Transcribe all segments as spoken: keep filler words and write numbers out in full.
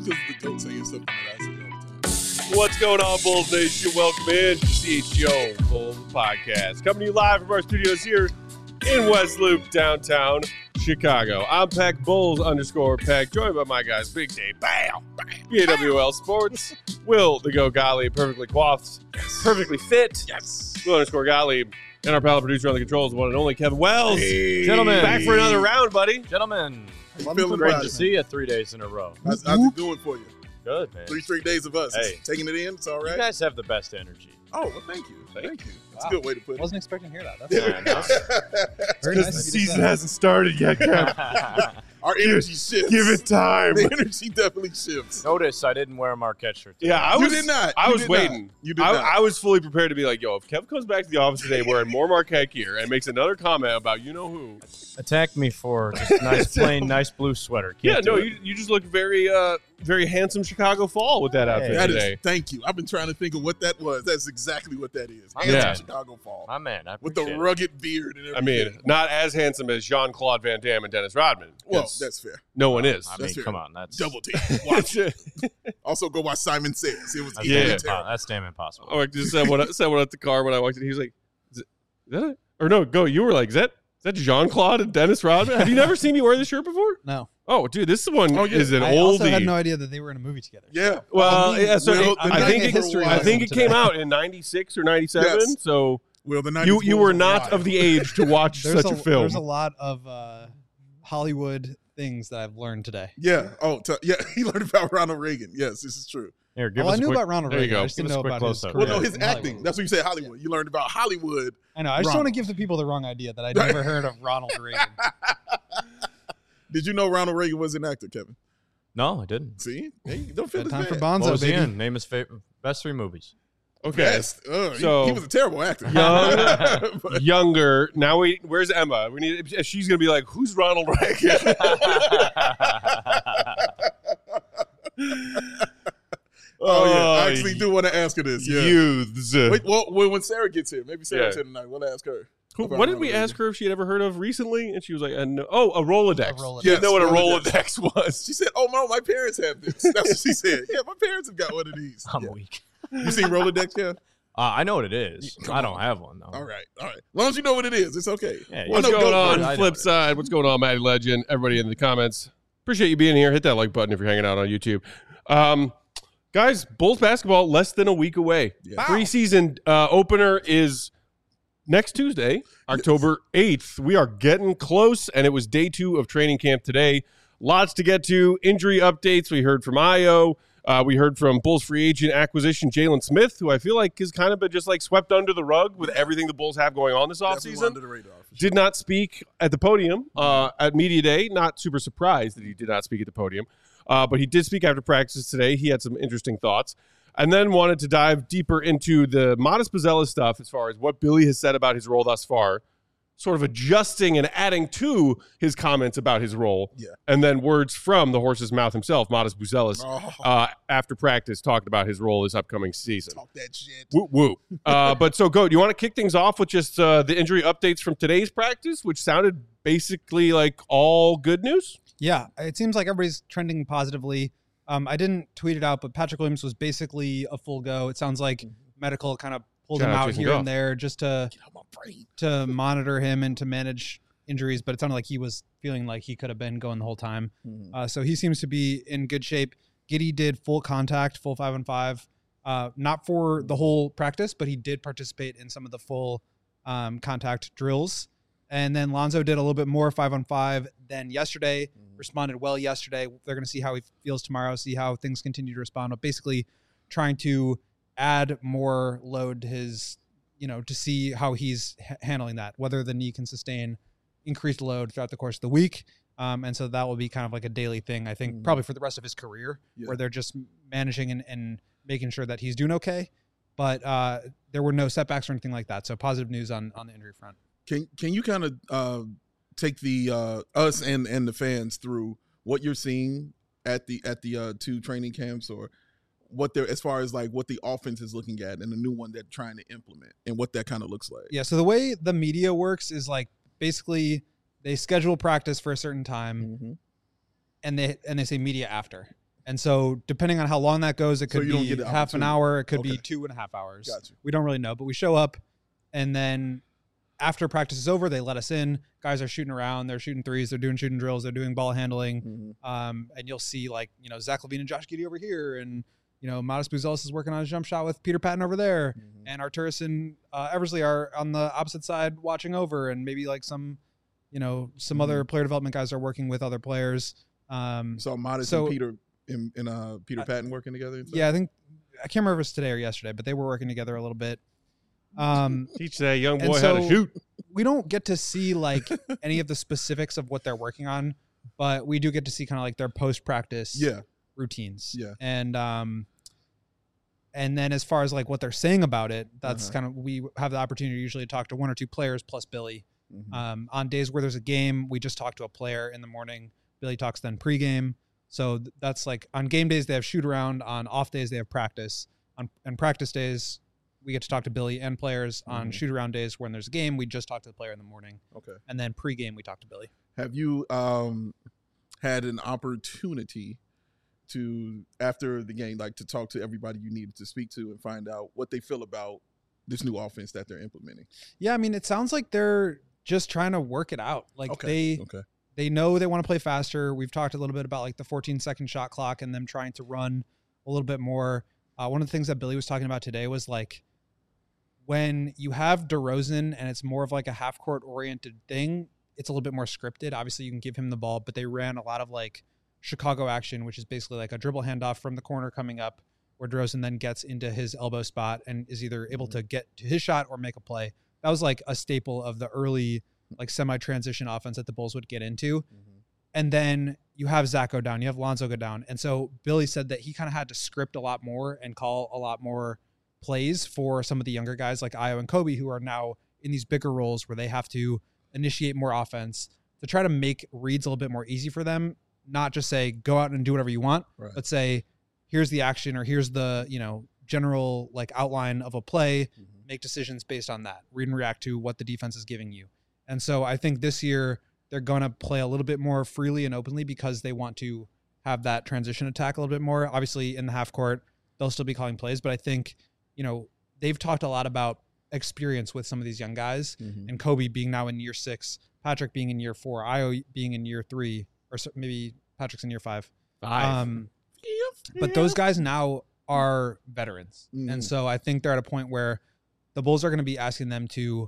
because of the goat saying something that I say all the time. What's going on, Bulls Nation? Welcome in to C H G O Bulls Podcast. Coming to you live from our studios here in West Loop, downtown Chicago. I'm Peck Bulls underscore Peck, joined by my guys, Big Dave, bam, B A W L Sports, Will the Go Gottlieb, perfectly coiffed, Yes. perfectly fit, Yes. Will underscore Gottlieb, and our pal producer on the controls, the one and only Kevin Wells. Hey. Gentlemen. Back for another round, buddy. Gentlemen, How you feeling great about to it? see you three days in a row. How's, how's it doing for you? Good, man. Three straight days of us. Hey. Taking it in, it's all You right? guys have the best energy. Oh, well, thank you. Thank, Thank you. That's Wow. a good way to put it. Wasn't expecting to hear that. That's Yeah, I know. very Because nice the of you to season say. hasn't started yet, Kev. Our energy shifts. Give it time. The energy definitely shifts. Notice I didn't wear a Marquette shirt today. Yeah, I You was, did not. I You was did waiting. not. You did I, not. I was fully prepared to be like, yo, if Kev comes back to the office today wearing more Marquette gear and makes another comment about you know who. Attack me for just a nice, plain, nice blue sweater. Can't Yeah, do no, it. you, you just look very uh very handsome Chicago fall with that outfit Hey. That today. is, thank you. I've been trying to think of what that was. That's exactly what that is. My Handsome man. Chicago fall. My man, I With the appreciate it. rugged beard and I everything. mean, not as handsome as Jean-Claude Van Damme and Dennis Rodman. well, 'cause that's fair. no one is. I mean, That's fair. come on, that's Double team. Watch. It's- Also, go watch Simon Says. It was that's, Yeah. equally damn, terrible. impo- that's damn impossible. oh, I just said what said what at the car when I walked in. He was like, is, it, is that it? Or no, go. You were like, is that is that Jean-Claude and Dennis Rodman? Have you never seen me wear this shirt before? No. Oh, dude, this one Oh, yeah. is an I oldie. also had no idea that they were in a movie together. Yeah. Well, I mean, yeah, so Will, it- the I think night it, history I think it lesson came today. out in ninety-six or ninety-seven. Yes. So Well, the nineties you you Bulls were not wild. of the age to watch There's such a, a, film. There's a lot of uh, Hollywood things that I've learned today. Yeah. Oh, t- yeah. He learned about Ronald Reagan. Yes, this is true. Here, give Well, us I a knew quick, about Ronald there you Reagan. go. I just Give didn't us know a quick about his close-up. career. Well, no, his in acting. Hollywood. That's what you said, Hollywood. You learned about Hollywood. I know. I just don't want Ronald. to give the people the wrong idea that I'd never heard of Ronald Reagan. Did you know Ronald Reagan was an actor, Kevin? No, I didn't. See? Hey, don't feel Good this time for bad. What Bonzo, was he baby. in? Name his favorite, best three movies. okay, Best. Uh, he- So- he, was a terrible actor. Young- But- younger. Now we. Where's Emma? We need. She's gonna be like, who's Ronald Reagan? oh, yeah. I Oh, actually do want to ask her this. Yeah. Youths. Wait, well, when when Sarah gets here, maybe Sarah's Yeah. here tonight. We'll ask her. Who- about what did Ronald we Reagan. ask her if she had ever heard of recently? And she was like, uh, no. "Oh, a Rolodex." A Rolodex. She didn't know what a Yes, Rolodex was. She said, "Oh no, my parents have this." That's what she said. Yeah, my parents have got one of these. I'm Yeah. weak. You seen Rolodex, Kev? Uh, I know what it is. Come I don't on. have one, though. All right, all right. As long as you know what it is, it's okay. Yeah, What's I know going Goat on? Boy. I know Flip it. side. What's going on, Matty Legend? Everybody in the comments. Appreciate you being here. Hit that like button if you're hanging out on YouTube. Um, guys, Bulls basketball less than a week away. Yeah. Preseason uh, opener is next Tuesday, October eighth. We are getting close, and it was day two of training camp today. Lots to get to. Injury updates. We heard from Io. Uh, we heard from Bulls free agent acquisition Jalen Smith, who I feel like has kind of been just like swept under the rug with everything the Bulls have going on this Definitely offseason. under the radar. For sure. Did not speak at the podium uh, at Media Day. Not super surprised that he did not speak at the podium, uh, but he did speak after practice today. He had some interesting thoughts, and then wanted to dive deeper into the Modest Buzelis stuff as far as what Billy has said about his role thus far, sort of adjusting and adding to his comments about his role, Yeah. and then words from the horse's mouth himself, Modest Buzelis, Oh, uh, after practice talking about his role this upcoming season. talk that shit. Woo woo. Uh, but so, Go, do you want to kick things off with just uh, the injury updates from today's practice, which sounded basically like all good news? Yeah, it seems like everybody's trending positively. Um, I didn't tweet it out, but Patrick Williams was basically a full go. It sounds like medical kind of pulled Shout him out out Jason here Goff. and there just to Get out my brain. to monitor him and to manage injuries, but it sounded like he was feeling like he could have been going the whole time. Uh, so he seems to be in good shape. Giddy did full contact, full five on five, uh, not for the whole practice, but he did participate in some of the full um, contact drills. And then Lonzo did a little bit more five on five than yesterday, responded well yesterday. They're going to see how he feels tomorrow, see how things continue to respond, but basically trying to add more load to his, you know, to see how he's h- handling that, whether the knee can sustain increased load throughout the course of the week. Um, and so that will be kind of like a daily thing, I think, Mhm. probably for the rest of his career, Yeah. where they're just managing and, and making sure that he's doing okay. But uh, there were no setbacks or anything like that. So positive news on, on the injury front. Can can you kind of uh, take the uh, us and and the fans through what you're seeing at the at the uh, two training camps, or what they're as far as like what the offense is looking at and the new one they're trying to implement and what that kind of looks like? Yeah. So the way the media works is like basically they schedule practice for a certain time Mm-hmm. and they and they say media after. And so depending on how long that goes, it So could you don't be get the half an opportunity. hour. It could Okay. be two and a half hours. Gotcha. We don't really know, but we show up, and then after practice is over, they let us in. Guys are shooting around. They're shooting threes. They're doing shooting drills. They're doing ball handling. Mhm. Um, and you'll see like, you know, Zach LaVine and Josh Giddey over here. And, you know, Modest Buzelis is working on a jump shot with Peter Patton over there. Mhm. And Arturis and uh, Eversley are on the opposite side watching over. And maybe like some, you know, some Mhm. other player development guys are working with other players. Um, So Modest So- and Peter and, and uh, Peter I- Patton working together. and stuff? yeah, I think, I can't remember if it's today or yesterday, but they were working together a little bit. Um, Teach that young And boy how to so- shoot. we don't get to see like any of the specifics of what they're working on, but we do get to see kind of like their post practice Yeah. routines. Yeah. And um and then as far as like what they're saying about it, that's Uh-huh. kind of we have the opportunity usually to talk to one or two players plus Billy. Mhm. Um on days where there's a game, we just talk to a player in the morning. Billy talks then pregame. So th- that's like on game days they have shoot around, on off days they have practice. On and practice days we get to talk to Billy and players. On Mhm. shoot around days when there's a game, we just talk to the player in the morning. Okay. And then pregame we talk to Billy. Have you um, had an opportunity to, after the game, like to talk to everybody you needed to speak to and find out what they feel about this new offense that they're implementing? Yeah, I mean, it sounds like they're just trying to work it out. Like Okay. they Okay. they know they want to play faster. We've talked a little bit about like the fourteen second shot clock and them trying to run a little bit more. Uh, one of the things that Billy was talking about today was like when you have DeRozan and it's more of like a half court oriented thing, it's a little bit more scripted. Obviously, you can give him the ball, but they ran a lot of like Chicago action, which is basically like a dribble handoff from the corner coming up, where DeRozan then gets into his elbow spot and is either able to get to his shot or make a play. That was like a staple of the early like semi-transition offense that the Bulls would get into. And then you have Zach go down, you have Lonzo go down. And so Billy said that he kind of had to script a lot more and call a lot more plays for some of the younger guys like Ayo and Kobe, who are now in these bigger roles where they have to initiate more offense to try to make reads a little bit more easy for them. Not just say, go out and do whatever you want, Right. but say, here's the action or here's the, you know, general like outline of a play, Mhm. make decisions based on that, read and react to what the defense is giving you. And so I think this year they're going to play a little bit more freely and openly because they want to have that transition attack a little bit more. Obviously in the half court, they'll still be calling plays, but I think, you know, they've talked a lot about experience with some of these young guys, Mhm. and Kobe being now in year six, Patrick being in year four, Ayo being in year three, or so- maybe Patrick's in year five. Five. Um, but those guys now are veterans. Mhm. And so I think they're at a point where the Bulls are going to be asking them to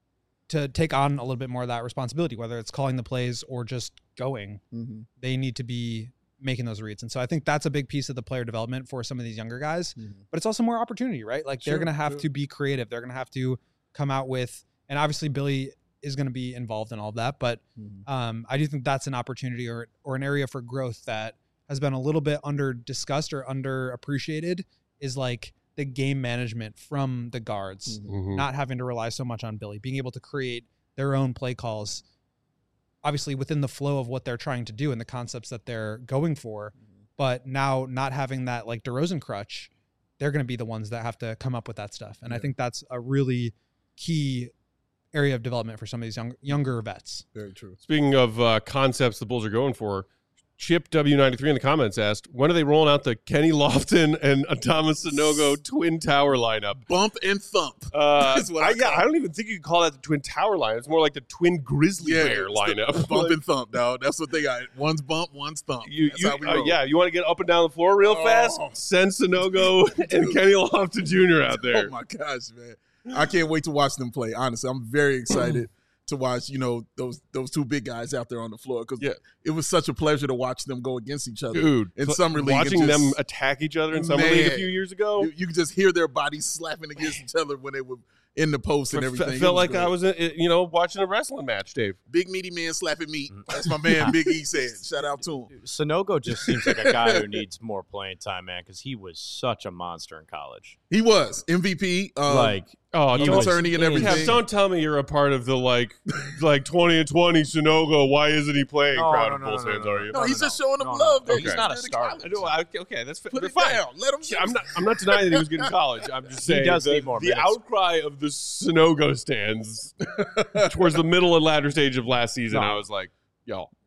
to take on a little bit more of that responsibility, whether it's calling the plays or just going. Mhm. They need to be making those reads. And so I think that's a big piece of the player development for some of these younger guys. Mhm. But it's also more opportunity, right? Like they're Sure, going to have sure. to be creative. They're going to have to come out with, and obviously Billy is going to be involved in all of that. But Mhm. um, I do think that's an opportunity or or an area for growth that has been a little bit under discussed or underappreciated, is like the game management from the guards, Mhm. Mhm. not having to rely so much on Billy, being able to create their own play calls, obviously within the flow of what they're trying to do and the concepts that they're going for. But now not having that like DeRozan crutch, they're going to be the ones that have to come up with that stuff. And I Yeah. think that's a really key area of development for some of these young, younger vets. Very true. Speaking of uh, concepts the Bulls are going for, Chip W ninety-three in the comments asked, when are they rolling out the Kenny Lofton and Thomas Sanogo twin tower lineup? Bump and thump. Uh, That's what I I, yeah, call I don't even think you could call that the twin tower line. It's more like the twin grizzly bear it's the lineup. Bump and thump, dog. That's what they got. One's bump, one's thump. You, That's you, how we uh, roll. yeah, you want to get up and down the floor real Oh. fast? Send Sanogo and Kenny Lofton Junior out there. Oh my gosh, man! I can't wait to watch them play. Honestly, I'm very excited to watch. You know those those two big guys out there on the floor, because Yeah. it was such a pleasure to watch them go against each other. Dude, in cl- summer league, watching and just- them attack each other in summer league a Man. few years ago, You, you could just hear their bodies slapping against each other when they were in the post and I everything. fe- It felt was like great. I was, uh, you know, watching a wrestling match, Dave. big meaty man slapping meat. That's my man, Big E said. Shout out to him. Sanogo just seems like a guy who needs more playing time, man, because he was such a monster in college. He was M V P. Um, like, Oh, he Team don't, was attorney and in- everything. Kev, don't tell me you're a part of the like, like twenty and twenty Sanogo. Why isn't he playing? No, crowd no, of no, Bulls no, no, fans, no, are you? no, no, he's no, just showing them no, no. love. That He's he's not a good in starter. college. I know. I, okay, that's Put that's it fine. down. Let him. Yeah, I'm not. I'm not denying that he was good in college. I'm just saying does the, need more the minutes. outcry of the Sanogo stands towards the middle and latter stage of last season. No. I was like, yo,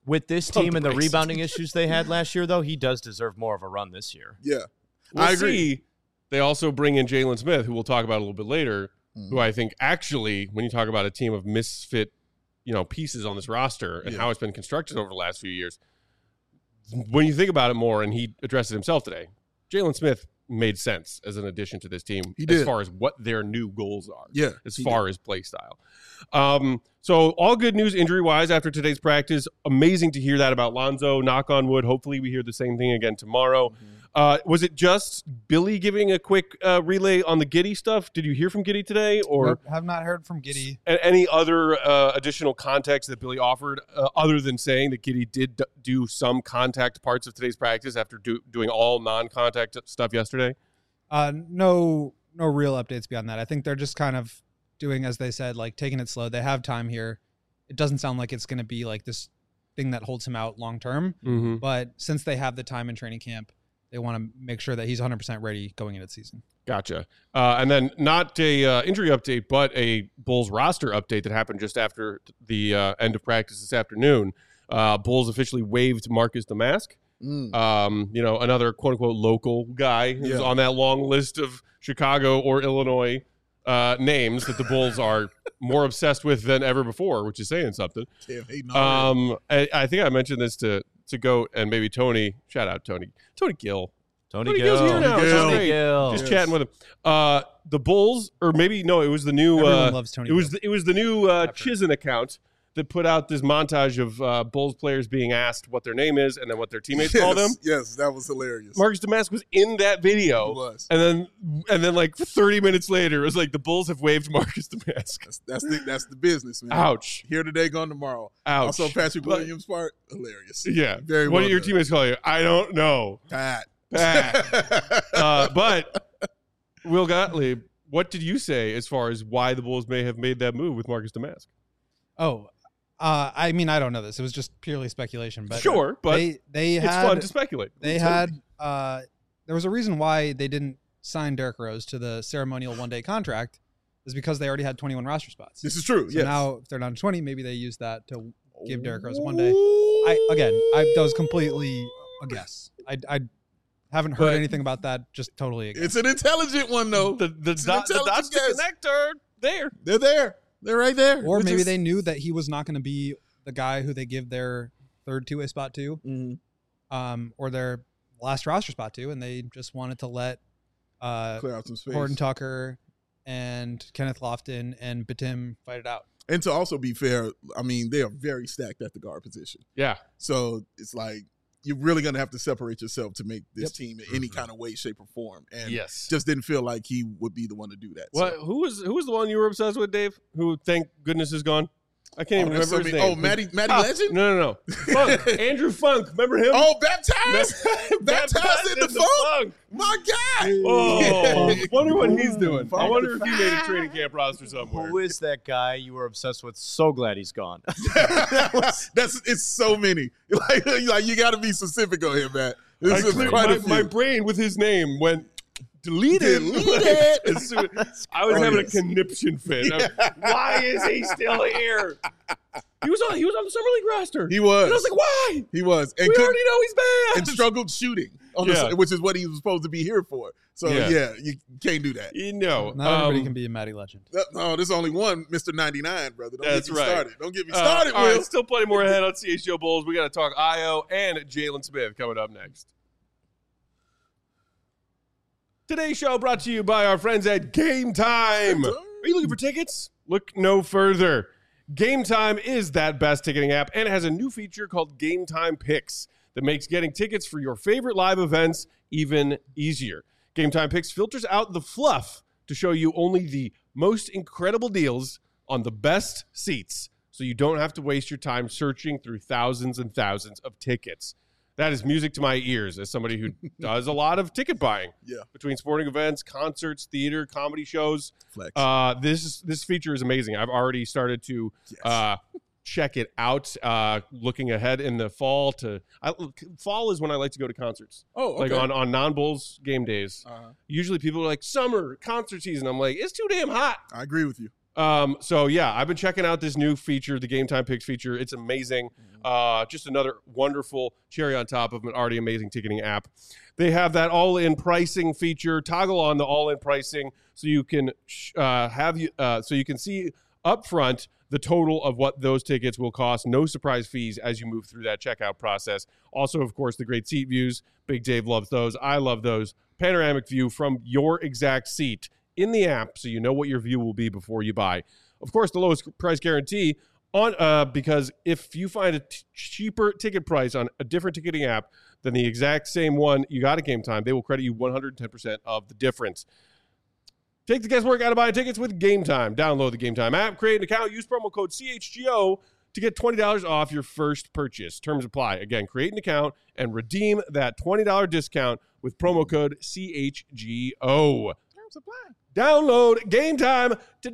With this Pump team the and the brakes. rebounding issues they had last year, though, he does deserve more of a run this year. Yeah, We'll I agree. see. They also bring in Jalen Smith, who we'll talk about a little bit later, Mhm. who I think actually, when you talk about a team of misfit, you know, pieces on this roster and Yeah. how it's been constructed over the last few years, when you think about it more, and he addressed it himself today, Jalen Smith made sense as an addition to this team He as did. far as what their new goals are. Yeah, As he far as play style. Um, so all good news injury wise after today's practice. Amazing to hear that about Lonzo. Knock on wood. Hopefully we hear the same thing again tomorrow. Mm-hmm. Uh, was it just Billy giving a quick uh, relay on the Giddey stuff? Did you hear from Giddey today, or Nope, have not heard from Giddey. a- any other uh, additional context that Billy offered, uh, other than saying that Giddey did d- do some contact parts of today's practice after do- doing all non-contact stuff yesterday? Uh, no, no real updates beyond that. I think they're just kind of doing, as they said, like taking it slow. They have time here. It doesn't sound like it's going to be like this thing that holds him out long term. Mm-hmm. But since they have the time in training camp, they want to make sure that he's one hundred percent ready going into the season. Gotcha. Uh, and then not a uh, injury update, but a Bulls roster update that happened just after the uh, end of practice this afternoon. Uh, Bulls officially waived Marcus Damask. Mm. Um, you know, another quote unquote local guy who's Yeah. on that long list of Chicago or Illinois uh, names that the Bulls are more obsessed with than ever before, which is saying something. Damn, hating already. Um, I, I think I mentioned this to to Goat and maybe Tony. Shout out Tony. Tony Gill. Tony, Tony Gill. Gill's here now, which is Tony great. Gill. Just Yes. chatting with him. Uh, the Bulls, or maybe no, it was the new. Everyone Uh, loves Tony. it was Gill. the, it was the new uh, I've heard. Chizen account that put out this montage of uh, Bulls players being asked what their name is and then what their teammates yes, call them. Yes, that was hilarious. Marcus Damask was in that He video, was. and then and then like thirty minutes later, it was like the Bulls have waived Marcus Damask. That's, that's the that's the business, man. Ouch! Here today, gone tomorrow. Ouch! Also, Patrick But- Williams' part, hilarious. Yeah. Very what well do your done. teammates call you? I don't know. Pat. Pat. uh, but Will Gottlieb, what did you say as far as why the Bulls may have made that move with Marcus Damask? Oh, uh, I mean, I don't know this. It was just purely speculation. But Sure, but they they it's had fun to speculate. they had uh, there was a reason why they didn't sign Derrick Rose to the ceremonial one day contract, is because they already had twenty-one roster spots. This is true. So yes. now if they're down to twenty, maybe they use that to give Derrick Rose one day. I again, I that was completely a guess. I I haven't heard But- anything about that. Just totally a guess. It's an intelligent one, though. the the, It's an dot, the intelligent dots to guess. connect are there. They're there. They're right there. Or We're maybe just- they knew that he was not going to be the guy who they give their third two-way spot to, Mhm. um, or their last roster spot to, and they just wanted to let uh, clear out some space. Horton Tucker and Kenneth Lofton and Batum fight it out. And to also be fair, I mean, they are very stacked at the guard position. Yeah. So it's like you're really going to have to separate yourself to make this Yep. team in any kind of way, shape, or form. And Yes. just didn't feel like he would be the one to do that. What? So. Who was who was the one you were obsessed with, Dave? Who, thank goodness, is gone. I can't Oh, even there's remember so his many- name. oh, Matty- Matty Ah, Legend? No, no, no. Funk. Andrew Funk. Remember him? Oh, baptized? baptized in the funk? funk. My God. Oh, Yeah. wonder what he's doing. I Funk. wonder if he made a training camp roster somewhere. Who is that guy you were obsessed with? So glad he's gone. That's it's so many. Like, like you got to be specific on here, man. This I is cleared quite my, a few. my brain with his name went deleted. Deleted. As soon- I was Oh, having yes. a conniption fit. Why is he still here? He was on. He was on the summer league roster. He was. And I was like, why? He was. And We could- already know he's bad. and struggled shooting on Yeah. the, which is what he was supposed to be here for. So Yeah. yeah, you can't do that. You know, Not everybody um, can be a Matty Legend. No, there's only one Mister ninety-nine, brother. Don't That's get me right. started. Don't get me uh, started, all Will. right, still plenty more ahead on C H G O Bulls. We got to talk I O and Jalen Smith coming up next. Today's show brought to you by our friends at Game Time. Are you looking for tickets? Look no further. Game Time is that best ticketing app and it has a new feature called Game Time Picks that makes getting tickets for your favorite live events even easier. Game Time Picks filters out the fluff to show you only the most incredible deals on the best seats, so you don't have to waste your time searching through thousands and thousands of tickets. That is music to my ears as somebody who does a lot of ticket buying Yeah. between sporting events, concerts, theater, comedy shows. Flex. Uh, this this feature is amazing. I've already started to Yes. uh, check it out. Uh, looking ahead in the fall to I, fall is when I like to go to concerts, oh, okay. like on on non-Bulls game days. uh, Usually people are like summer concert season. I'm like, it's too damn hot. I agree with you. Um, so yeah, I've been checking out this new feature, the Game Time Picks feature. It's amazing. Uh, just another wonderful cherry on top of an already amazing ticketing app. They have that all-in pricing feature. Toggle on the all-in pricing so you can uh, have you uh, so you can see upfront the total of what those tickets will cost. No surprise fees as you move through that checkout process. Also, of course, the great seat views. Big Dave loves those. I love those. Panoramic view from your exact seat in the app, so you know what your view will be before you buy. Of course, the lowest price guarantee on uh, because if you find a t- cheaper ticket price on a different ticketing app than the exact same one you got at Game Time, they will credit you one hundred ten percent of the difference. Take the guesswork out of buying tickets with Game Time. Download the Game Time app, create an account, use promo code C H G O to get twenty dollars off your first purchase. Terms apply. Again, create an account and redeem that twenty dollars discount with promo code C H G O. Terms apply. Download Game Time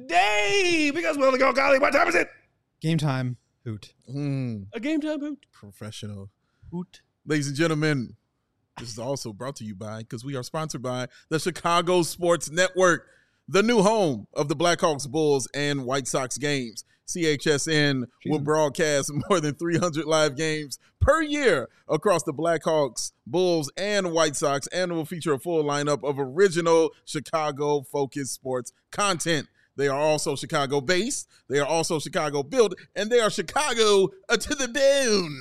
today because we'll go, golly, what time is it? Game Time hoot. Mm, A Game Time hoot. professional. Hoot. Ladies and gentlemen, this is also brought to you by, because we are sponsored by the Chicago Sports Network, the new home of the Blackhawks, Bulls, and White Sox games. C H S N will broadcast more than three hundred live games per year across the Blackhawks, Bulls, and White Sox, and will feature a full lineup of original Chicago-focused sports content. They are also Chicago-based, they are also Chicago-built, and they are Chicago uh, to the bone.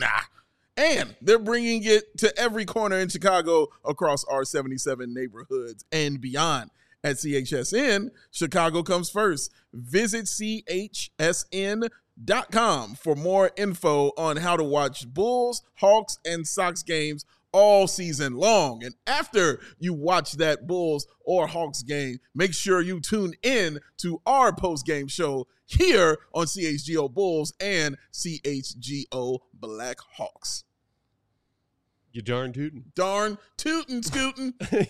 And they're bringing it to every corner in Chicago across our seventy-seven neighborhoods and beyond. At C H S N, Chicago comes first. Visit C H S N dot com for more info on how to watch Bulls, Hawks, and Sox games all season long. And after you watch that Bulls or Hawks game, make sure you tune in to our post-game show here on C H G O Bulls and C H G O Blackhawks. You darn tootin'. Darn tootin' scootin'. like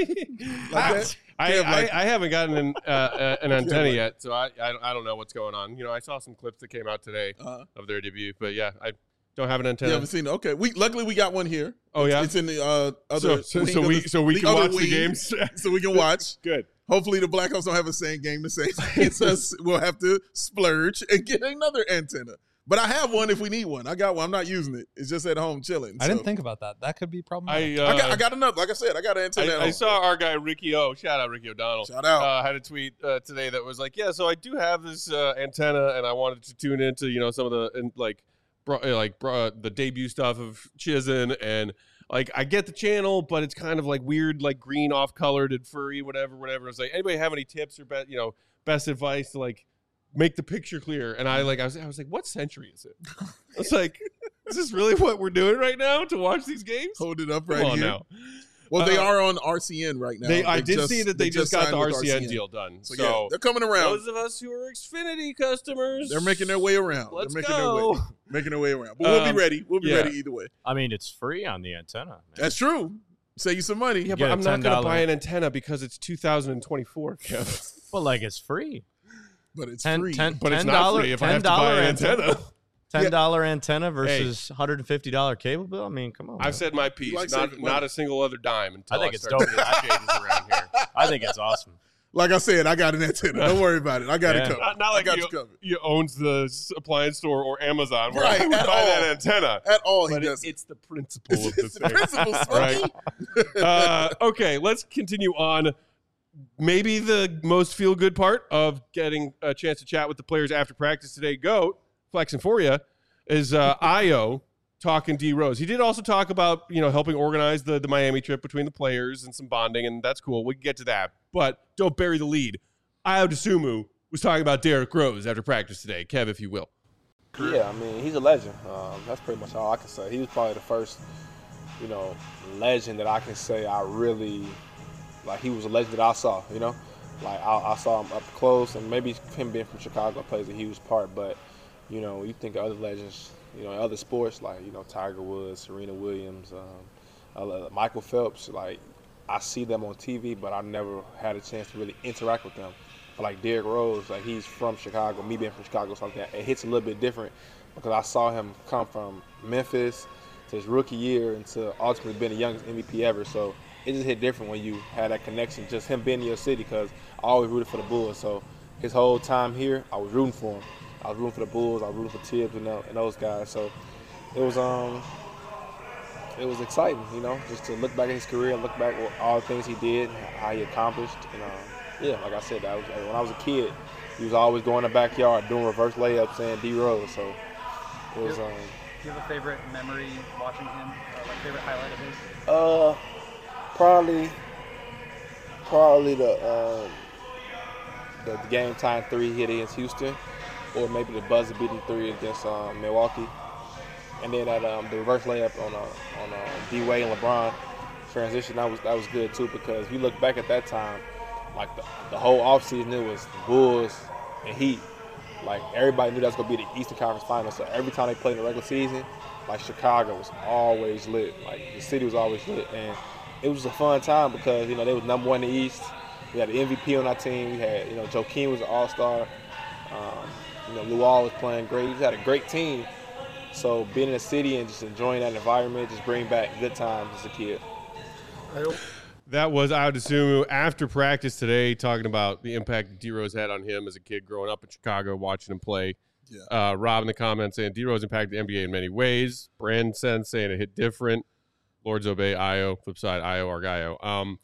that? I, Kev, like- I, I haven't gotten an, uh, uh, an antenna yet, so I, I I don't know what's going on. You know, I saw some clips that came out today Uh-huh. of their debut, but yeah, I don't have an You antenna. haven't seen it? Okay. We luckily we got one here. Oh, yeah? It's in the uh, So, other. so, wing so of we the- so we the can other watch the wing, games. so we can watch. Good. Hopefully the Blackhawks don't have the same game the same. It's us. We'll have to splurge and get another antenna. But I have one if we need one. I got one. I'm not using it. It's just at home chilling. I didn't So- think about that. That could be problematic. I, uh, I got. I got another. Like I said, I got an antenna. at I, I home. saw our guy Ricky O. Shout out Ricky O'Donnell. Shout out. Uh, had a tweet uh, today that was like, yeah, so I do have this uh, antenna, and I wanted to tune into you know some of the and like bro, like bro, the debut stuff of Chizen, and like I get the channel, but it's kind of like weird, like green off colored and furry, whatever, whatever. It's like, anybody have any tips or be, you know best advice to like make the picture clear? And I like I was I was like, what century is it? I was like, is this really what we're doing right now to watch these games? Hold it up Come right on here. now. Well, they Uh, are on R C N right now. They, I They did see that they, just, got the signed R with C N deal done. So, So, yeah, they're coming around. those of us who are Xfinity customers, They're making their way around. Let's they're making go. their way. Making their way around. But we'll Um, be ready. We'll be yeah. ready either way. I mean, it's free on the antenna. Man. That's true. Save you some money. Yeah, get but a I'm not going to ten dollar buy an antenna because it's two thousand twenty-four, Kev. Well, like it's free. But it's Ten, free. ten, But it's ten not dollar, free if I ten have to buy dollar an antenna. Ten dollar antenna versus one hundred and fifty dollar cable bill. I mean, come on. man. I've said my piece. like Not, saving money. not a single other dime until I think it's start dope. getting changes around here. I think it's awesome. Like I said, I got an antenna. Don't worry about it. I got Yeah. it covered. Not, not I like got you, you covered. you owns the s- appliance store or Amazon where Right, I would at buy all. that antenna. At all, he But it, does. it's the principle of the It's the thing. principle, Smokey. Right. uh, okay, let's continue on. Maybe the most feel good part of getting a chance to chat with the players after practice today, Goat, flexing for you, is uh, Io talking D Rose. He did also talk about, you know, helping organize the, the Miami trip between the players and some bonding, and that's cool. We can get to that. But don't bury the lead. Io DeSumo was talking about Derrick Rose after practice today. Kev, if you will. Yeah, I mean, he's a legend. Um, that's pretty much all I can say. He was probably the first, you know, legend that I can say I really, like, he was a legend that I saw, you know? Like, I, I saw him up close, and maybe him being from Chicago plays a huge part, but, you know, when you think of other legends, you know, in other sports, like, you know, Tiger Woods, Serena Williams, um, uh, Michael Phelps, like, I see them on T V, but I never had a chance to really interact with them. But like Derrick Rose, like he's from Chicago, me being from Chicago, something like that, it hits a little bit different because I saw him come from Memphis to his rookie year and to ultimately being the youngest M V P ever. So it just hit different when you had that connection, just him being in your city, because I always rooted for the Bulls. So his whole time here, I was rooting for him. I was rooting for the Bulls. I was rooting for Tibbs and, and those guys. So it was um, it was exciting, you know, just to look back at his career, look back at all the things he did, how he accomplished. And um, yeah, like I said, I was, when I was a kid, he was always going in the backyard doing reverse layups and D Rose. So it was. Um, Do you have a favorite memory watching him? Or like favorite highlight of his? Uh, probably, probably the um, the game time three he hit against Houston, or maybe the buzzer beating three against um, Milwaukee, and then that um, the reverse layup on uh, on uh, D Wade and LeBron transition. That was that was good too, because if you look back at that time, like the, the whole offseason, it was Bulls and Heat. Like, everybody knew that was going to be the Eastern Conference Finals. So every time they played in the regular season, like, Chicago was always lit. Like, the city was always lit. And it was a fun time because, you know, they was number one in the East. We had the M V P on our team. We had, you know, Joakim was an all-star. Um, you know, Luol was playing great. We had a great team. So being in the city and just enjoying that environment just bring back good times as a kid. That was Ayo Dosunmu after practice today, talking about the impact D-Rose had on him as a kid growing up in Chicago, watching him play. Yeah. Uh, Rob in the comments saying D-Rose impacted the N B A in many ways. Brandon Sen saying it hit different. Lords obey Ayo. Flip side, Ayo Argayo. Um,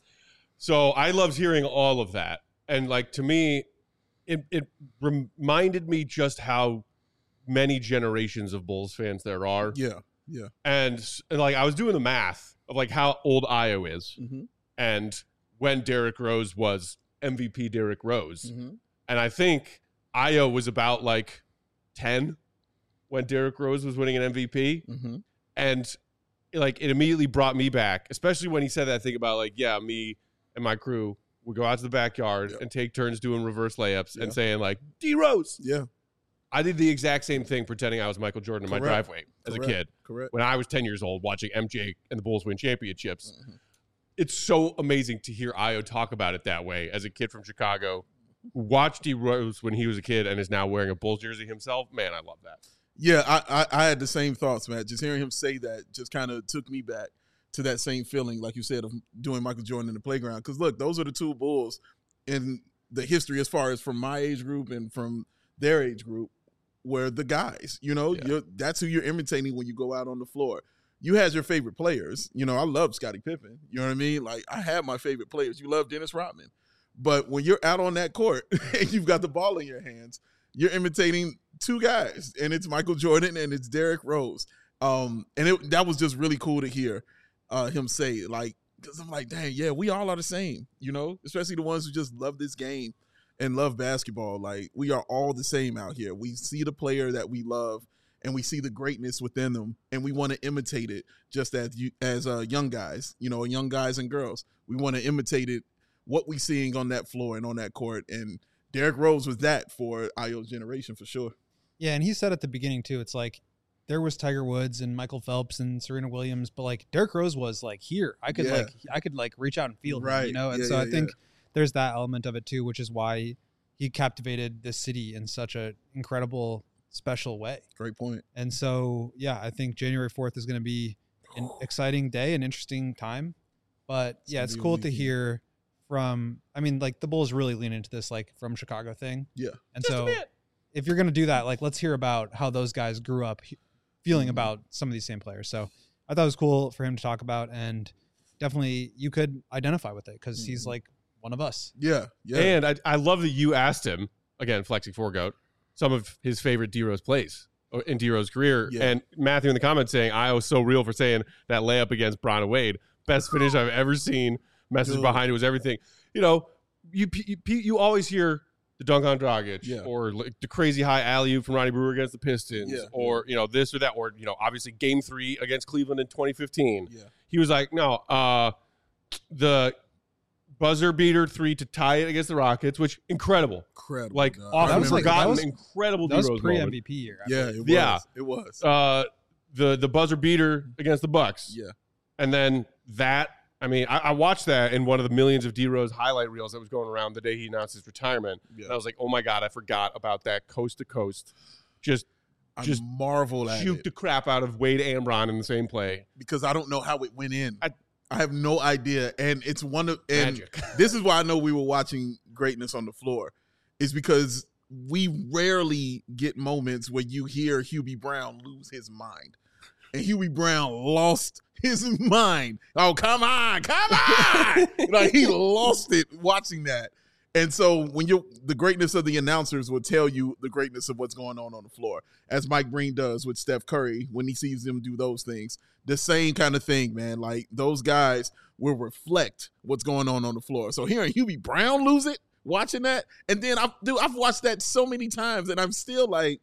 so I loved hearing all of that. And, like, to me, it, it reminded me just how many generations of Bulls fans there are. Yeah, yeah. And, and like, I was doing the math of, like, how old Ayo is. Mm-hmm. And when Derrick Rose was M V P Derrick Rose. Mm-hmm. And I think Ayo was about like ten when Derrick Rose was winning an M V P. Mm-hmm. And like it immediately brought me back, especially when he said that thing about like, yeah, me and my crew would go out to the backyard yeah. and take turns doing reverse layups yeah. and saying like, D Rose. Yeah. I did the exact same thing pretending I was Michael Jordan in Correct. my driveway as Correct. a kid. Correct. When I was ten years old watching M J and the Bulls win championships. Mm-hmm. It's so amazing to hear Ayo talk about it that way as a kid from Chicago who watched D Rose when he was a kid and is now wearing a Bulls jersey himself. Man, I love that. Yeah, I, I, I had the same thoughts, man. Just hearing him say that just kind of took me back to that same feeling, like you said, of doing Michael Jordan in the playground. Because, look, those are the two Bulls in the history as far as from my age group and from their age group were the guys. You know, Yeah. you're, that's who you're imitating when you go out on the floor. You had your favorite players. You know, I love Scottie Pippen. You know what I mean? Like, I had my favorite players. You love Dennis Rodman. But when you're out on that court and you've got the ball in your hands, you're imitating two guys, and it's Michael Jordan and it's Derrick Rose. Um, and it, that was just really cool to hear uh, him say, like, because I'm like, dang, yeah, we all are the same, you know, especially the ones who just love this game and love basketball. Like, we are all the same out here. We see the player that we love, and we see the greatness within them, and we want to imitate it just as you, as uh, young guys, you know, young guys and girls. We want to imitate it, what we seeing on that floor and on that court. And Derrick Rose was that for Ayo's generation for sure. Yeah, and he said at the beginning, too, it's like there was Tiger Woods and Michael Phelps and Serena Williams, but, like, Derrick Rose was, like, here. I could, Yeah. like, I could like reach out and feel him, Right. you know? And Yeah, so yeah, I think yeah. there's that element of it, too, which is why he captivated this city in such an incredible, special way. Great point. And so, yeah, I think January fourth is going to be an exciting day, an interesting time. But, It's yeah, gonna it's be a cool to weekend. hear from, I mean, like, the Bulls really lean into this, like, from Chicago thing. Yeah. And so if you're going to do that, like, let's hear about how those guys grew up he- feeling Mhm. about some of these same players. So I thought it was cool for him to talk about, and definitely you could identify with it because he's Mhm. like one of us. Yeah. Yeah. And I, I love that you asked him, again, flexing four goat, some of his favorite D-Rose plays in D-Rose's career. Yeah. And Matthew in the comments saying, I was so real for saying that layup against Bron and Wade. Best finish I've ever seen. Message Dude. behind it was everything. You know, you you, you always hear the dunk on Dragic Yeah. or like the crazy high alley-oop from Ronnie Brewer against the Pistons Yeah. or, you know, this or that. Or, you know, obviously game three against Cleveland in twenty fifteen. Yeah. He was like, no, uh, the buzzer beater three to tie it against the Rockets, which incredible. Incredible. Like dog. often I was like- remember forgotten, that was- incredible That was D-Rose pre moment. M V P year. I Yeah, believe. it was. Yeah. It was. Uh, the the buzzer beater against the Bucks, yeah. and then that. I mean, I, I watched that in one of the millions of D-Rose highlight reels that was going around the day he announced his retirement. Yeah. And I was like, oh my god, I forgot about that coast to coast. Just I just marveled at shoot it the crap out of Wade and Bron in the same play. because I don't know how it went in. I- I, have no idea. And it's one of and Magic. this is why I know we were watching greatness on the floor. is because we rarely get moments where you hear Hubie Brown lose his mind. And Hubie Brown lost his mind. Oh, come on, come on. Like, he lost it watching that. And so when you're, the greatness of the announcers will tell you the greatness of what's going on on the floor, as Mike Breen does with Steph Curry when he sees them do those things. The same kind of thing, man. Like, those guys will reflect what's going on on the floor. So hearing Hubie Brown lose it, watching that, and then I've, dude, I've watched that so many times, and I'm still like,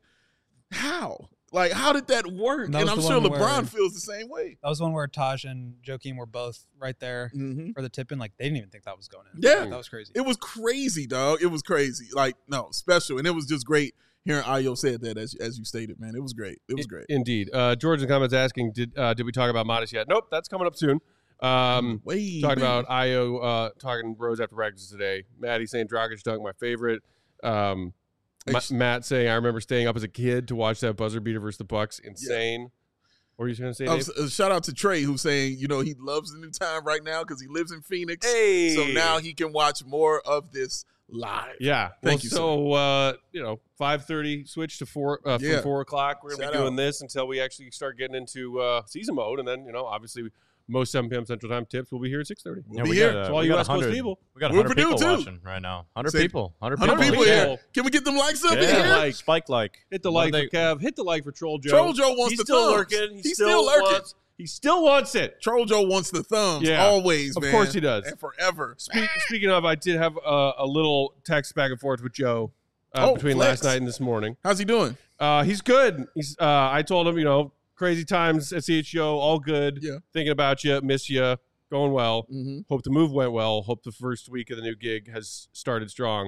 how? Like, how did that work? That and I'm sure LeBron where, feels the same way. That was one where Taj and Joakim were both right there Mm-hmm. for the tip-in. Like, they didn't even think that was going in. Yeah. Like, that was crazy. It was crazy, dog. It was crazy. Like, no, special. And it was just great hearing Ayo said that, as as you stated, man. It was great. It was great. Indeed. Uh, George in the comments asking, did uh, did we talk about Modest yet? Nope, that's coming up soon. Um, Way talking back. about Ayo uh, talking Rose after practice today. Maddie saying Dragic dunk, my favorite. Um, Ma- Ex- Matt saying, I remember staying up as a kid to watch that buzzer beater versus the Bucks. Insane. What were you going to say, Oh, Dave? uh, shout out to Trey, who's saying, you know, he loves the new time right now because he lives in Phoenix. Hey. So now he can watch more of this live. Yeah. Thank well, you, So, uh, you know, five thirty, switch to four, uh, from Yeah. four o'clock. We're going to Shout be doing out. this until we actually start getting into uh, season mode. And then, you know, obviously most seven p.m. Central Time tips will be here at six thirty. We'll Yeah, be we here. got, uh, So all we you got West Coast 100 people. We got We're one hundred Purdue, people too. watching right now. one hundred Say- people. one hundred one hundred people. people Yeah. here. Can we get them likes up Yeah, in here? like- spike like. Hit the What like are they- for Kev. Hit the like for Troll Joe. Troll Joe wants He's the still thumbs. lurking. He He's still, still lurking. wants. He still wants it. Troll Joe wants the thumbs Yeah. always, Of man. course he does. And forever. Speak, speaking of, I did have a, a little text back and forth with Joe uh, Oh, between flex. last night and this morning. How's he doing? Uh, he's good. He's. Uh, I told him, you know, crazy times at C H O, all good. Yeah. Thinking about you, miss you, going well. Mm-hmm. Hope the move went well. Hope the first week of the new gig has started strong.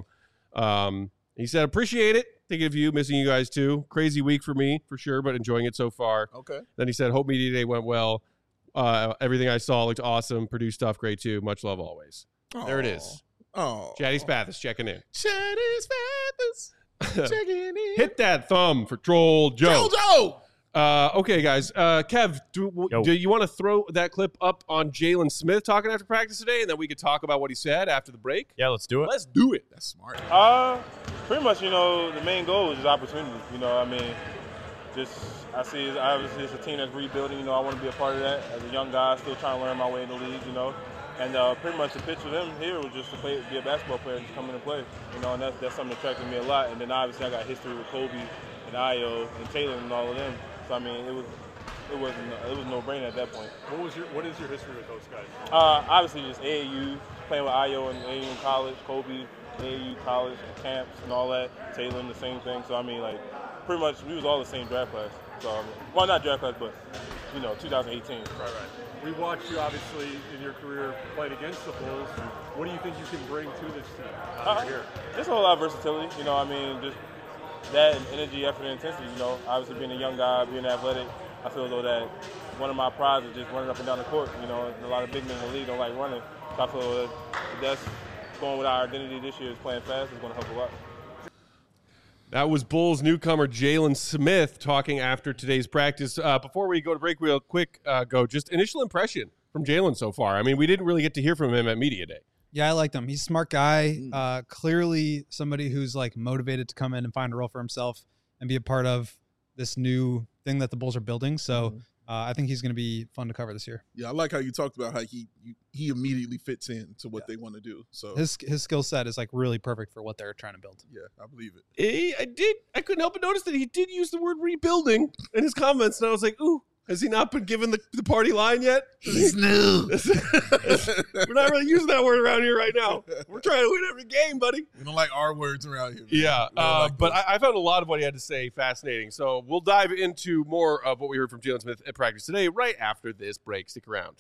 Um, he said, appreciate it. Thinking of you, missing you guys too. Crazy week for me, for sure, but enjoying it so far. Okay. Then he said, hope Media Day went well. Uh, everything I saw looked awesome. Produced stuff great too. Much love always. There it is. Oh. Chatty Spathis checking in. Chatty's Feathers. Checking in. Hit that thumb for Troll Joe. Troll Joe. Uh, okay, guys. Uh, Kev, do, Yo. do you want to throw that clip up on Jalen Smith talking after practice today, and then we could talk about what he said after the break? Yeah, let's do it. Let's do it. That's smart. Uh, pretty much, you know, the main goal is just opportunity. You know, I mean, just I see it's, obviously it's a team that's rebuilding. You know, I want to be a part of that as a young guy, still trying to learn my way in the league. You know, and uh, pretty much the pitch for them here was just to play, be a basketball player, and just come in and play. You know, and that's that's something that attracted me a lot. And then obviously I got history with Kobe and Ayo and Taylor and all of them. So I mean, it was it wasn't it was no brainer at that point. What was your What is your history with those guys? Uh, obviously, just A A U, playing with Ayo and A A U in college, Kobe, A A U college, camps and all that, Taylor, the same thing. So, I mean, like, pretty much we was all the same draft class. So, um, well, not draft class, but, you know, twenty eighteen. Right, right. We watched you, obviously, in your career playing against the Bulls. What do you think you can bring to this team uh, Uh, here? There's a whole lot of versatility, you know, I mean, just that and energy, effort, and intensity, you know. Obviously, being a young guy, being athletic, I feel though that one of my prides is just running up and down the court. You know, a lot of big men in the league don't like running. So I feel that that's going with our identity this year is playing fast is going to help a lot. That was Bulls newcomer Jalen Smith talking after today's practice. Uh, before we go to break real quick, uh, go just initial impression from Jalen so far. I mean, we didn't really get to hear from him at Media Day. Yeah, I liked him. He's a smart guy. Uh, clearly somebody who's like motivated to come in and find a role for himself and be a part of this new thing that the Bulls are building. So uh, I think he's going to be fun to cover this year. Yeah, I like how you talked about how he you, he immediately fits in to what they want to do. So His his skill set is like really perfect for what they're trying to build. yeah, I believe it. He, I did. I couldn't help but notice that he did use the word rebuilding in his comments, and I was like, "Ooh, has he not been given the, the party line yet?" He's new. We're not really using that word around here right now. We're trying to win every game, buddy. We don't like R words around here. man. Yeah, We don't uh, like but those. I, I found a lot of what he had to say fascinating. So we'll dive into more of what we heard from Jalen Smith at practice today, right after this break. Stick around.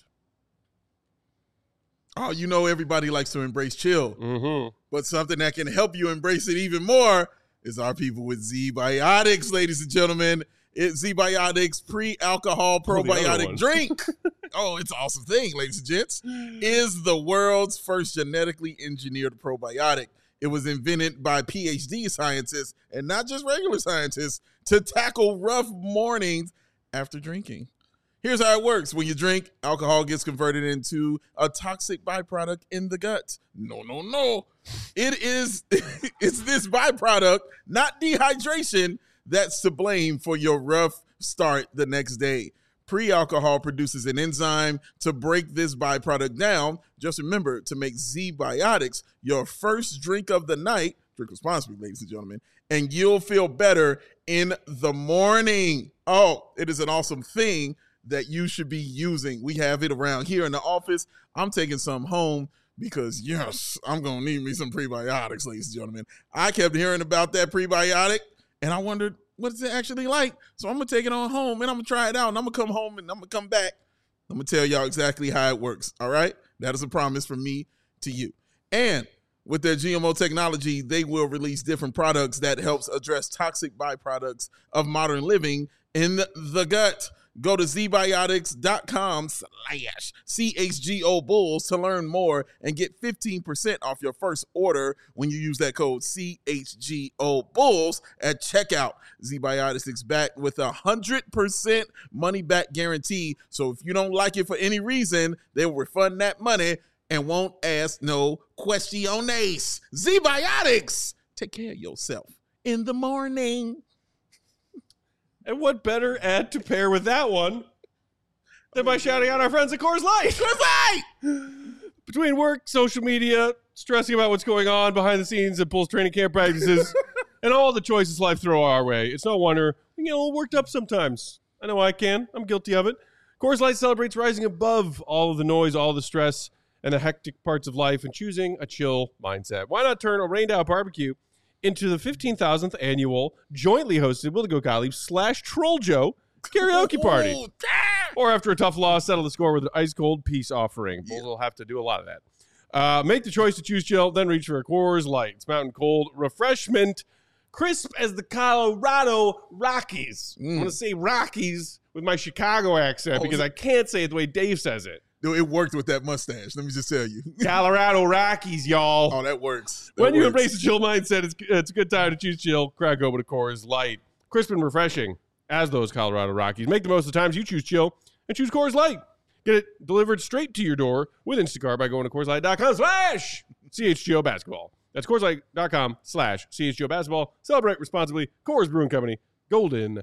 oh, you know, everybody likes to embrace chill, Mm-hmm. but something that can help you embrace it even more is our people with Z-Biotics, ladies and gentlemen. It's Z-Biotics pre-alcohol Oh, the other probiotic one. drink. Oh, it's an awesome thing, ladies and gents. Is the world's first genetically engineered probiotic. It was invented by P H D scientists and not just regular scientists to tackle rough mornings after drinking. Here's how it works. When you drink, alcohol gets converted into a toxic byproduct in the gut. No, no, no. It is it's this byproduct, not dehydration, that's to blame for your rough start the next day. Pre-alcohol produces an enzyme to break this byproduct down. Just remember to make Z-Biotics your first drink of the night. Drink responsibly, ladies and gentlemen, and you'll feel better in the morning. Oh, it is an awesome thing that you should be using. We have it around here in the office. I'm taking some home because, yes, I'm going to need me some prebiotics, ladies and gentlemen. I kept hearing about that prebiotic, and I wondered, what is it actually like? So I'm going to take it on home, and I'm going to try it out, and I'm going to come home, and I'm going to come back. I'm going to tell y'all exactly how it works, all right? That is a promise from me to you. And with their G M O technology, they will release different products that helps address toxic byproducts of modern living in the gut. Go to zbiotics.com slash CHGO Bulls to learn more and get fifteen percent off your first order when you use that code C H G O Bulls at checkout. ZBiotics is back with a one hundred percent money back guarantee. So if you don't like it for any reason, they will refund that money and won't ask no questiones. ZBiotics, take care of yourself in the morning. And what better ad to pair with that one than by shouting out our friends at Coors Light? Coors Light! Between work, social media, stressing about what's going on behind the scenes at Bulls training camp practices, and all the choices life throw our way, it's no wonder we get a little worked up sometimes. I know I can. I'm guilty of it. Coors Light celebrates rising above all of the noise, all the stress, and the hectic parts of life and choosing a chill mindset. Why not turn a rained out barbecue into the fifteen thousandth annual jointly hosted Will the Go Gottlieb slash Troll Joe karaoke party. Or after a tough loss, settle the score with an ice-cold peace offering. Bulls will have to do a lot of that. Uh, make the choice to choose chill, then reach for a Coors Light. It's mountain cold refreshment, crisp as the Colorado Rockies. Mm. I'm going to say Rockies with my Chicago accent oh, because I can't say it the way Dave says it. Dude, it worked with that mustache. Let me just tell you. Colorado Rockies, y'all. Oh, that works. That when you works. embrace a chill mindset, it's, it's a good time to choose chill. Crack open a Coors Light. Crisp and refreshing as those Colorado Rockies. Make the most of the times you choose chill and choose Coors Light. Get it delivered straight to your door with Instacart by going to CoorsLight.com slash CHGO Basketball. That's CoorsLight.com slash CHGO Basketball. Celebrate responsibly. Coors Brewing Company, Golden,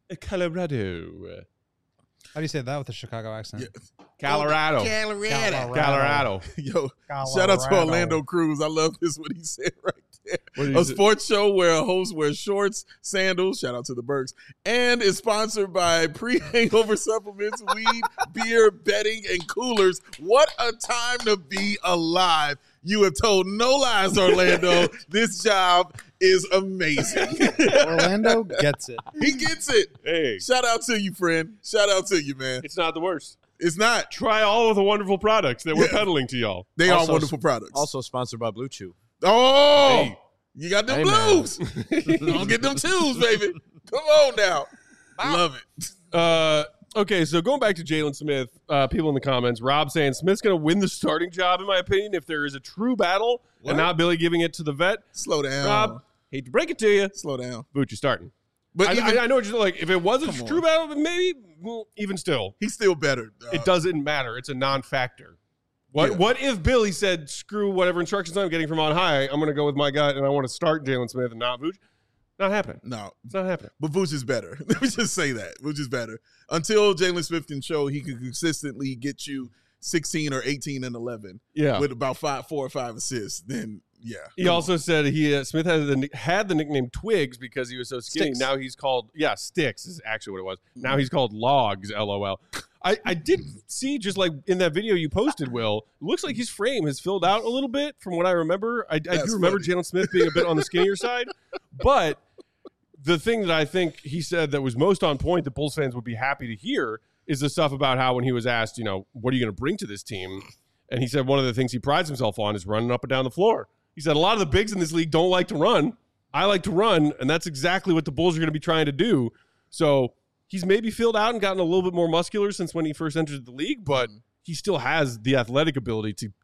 Colorado. How do you say that with a Chicago accent? Yeah. Colorado. Colorado. Colorado. Yo, Colorado. Shout out to Orlando Cruz. I love this, what he said right there. A say? sports show where a host wears shorts, sandals, shout out to the Berks, and is sponsored by pre-hangover supplements, weed, beer, bedding, and coolers. What a time to be alive. You have told no lies, Orlando. This job is amazing. Orlando gets it. He gets it. Hey. Shout out to you, friend. Shout out to you, man. It's not the worst. It's not. Try all of the wonderful products that we're Yeah. peddling to y'all. They Also- are wonderful products. Also sponsored by Blue Chew. Oh, Hey. you got them Hey, man. blues. Don't get them twos, baby. Come on now. Love it. Uh, okay, so going back to Jalen Smith, uh, people in the comments, Rob saying Smith's going to win the starting job, in my opinion, if there is a true battle What? and not Billy giving it to the vet. Slow down. Rob, hate to break it to you, Slow down. Vooch, you're starting. But I, even, I, I know what you're like. If it was a Come true on. battle, maybe well, even still, he's still better. Uh, it doesn't matter. It's a non-factor. What Yeah. What if Billy said, "Screw whatever instructions I'm getting from on high. I'm going to go with my guy, and I want to start Jalen Smith and not Vooch"? Not happening. No, It's not happening. but Vooch is better. Let me just say that. Vooch is better. Until Jalen Smith can show he can consistently get you sixteen or eighteen and eleven Yeah. with about five, four or five assists, then yeah. He Come also said he uh, Smith had the nick- had the nickname Twigs because he was so skinny. Sticks. Now he's called yeah Sticks is actually what it was. Now he's called Logs. LOL. I I did see just like in that video you posted, Will. It looks like his frame has filled out a little bit from what I remember. I, I That's do remember funny. Jalen Smith being a bit on the skinnier side, but the thing that I think he said that was most on point that Bulls fans would be happy to hear is the stuff about how when he was asked, you know, what are you going to bring to this team? And he said one of the things he prides himself on is running up and down the floor. He said a lot of the bigs in this league don't like to run. I like to run, and that's exactly what the Bulls are going to be trying to do. So he's maybe filled out and gotten a little bit more muscular since when he first entered the league, but he still has the athletic ability to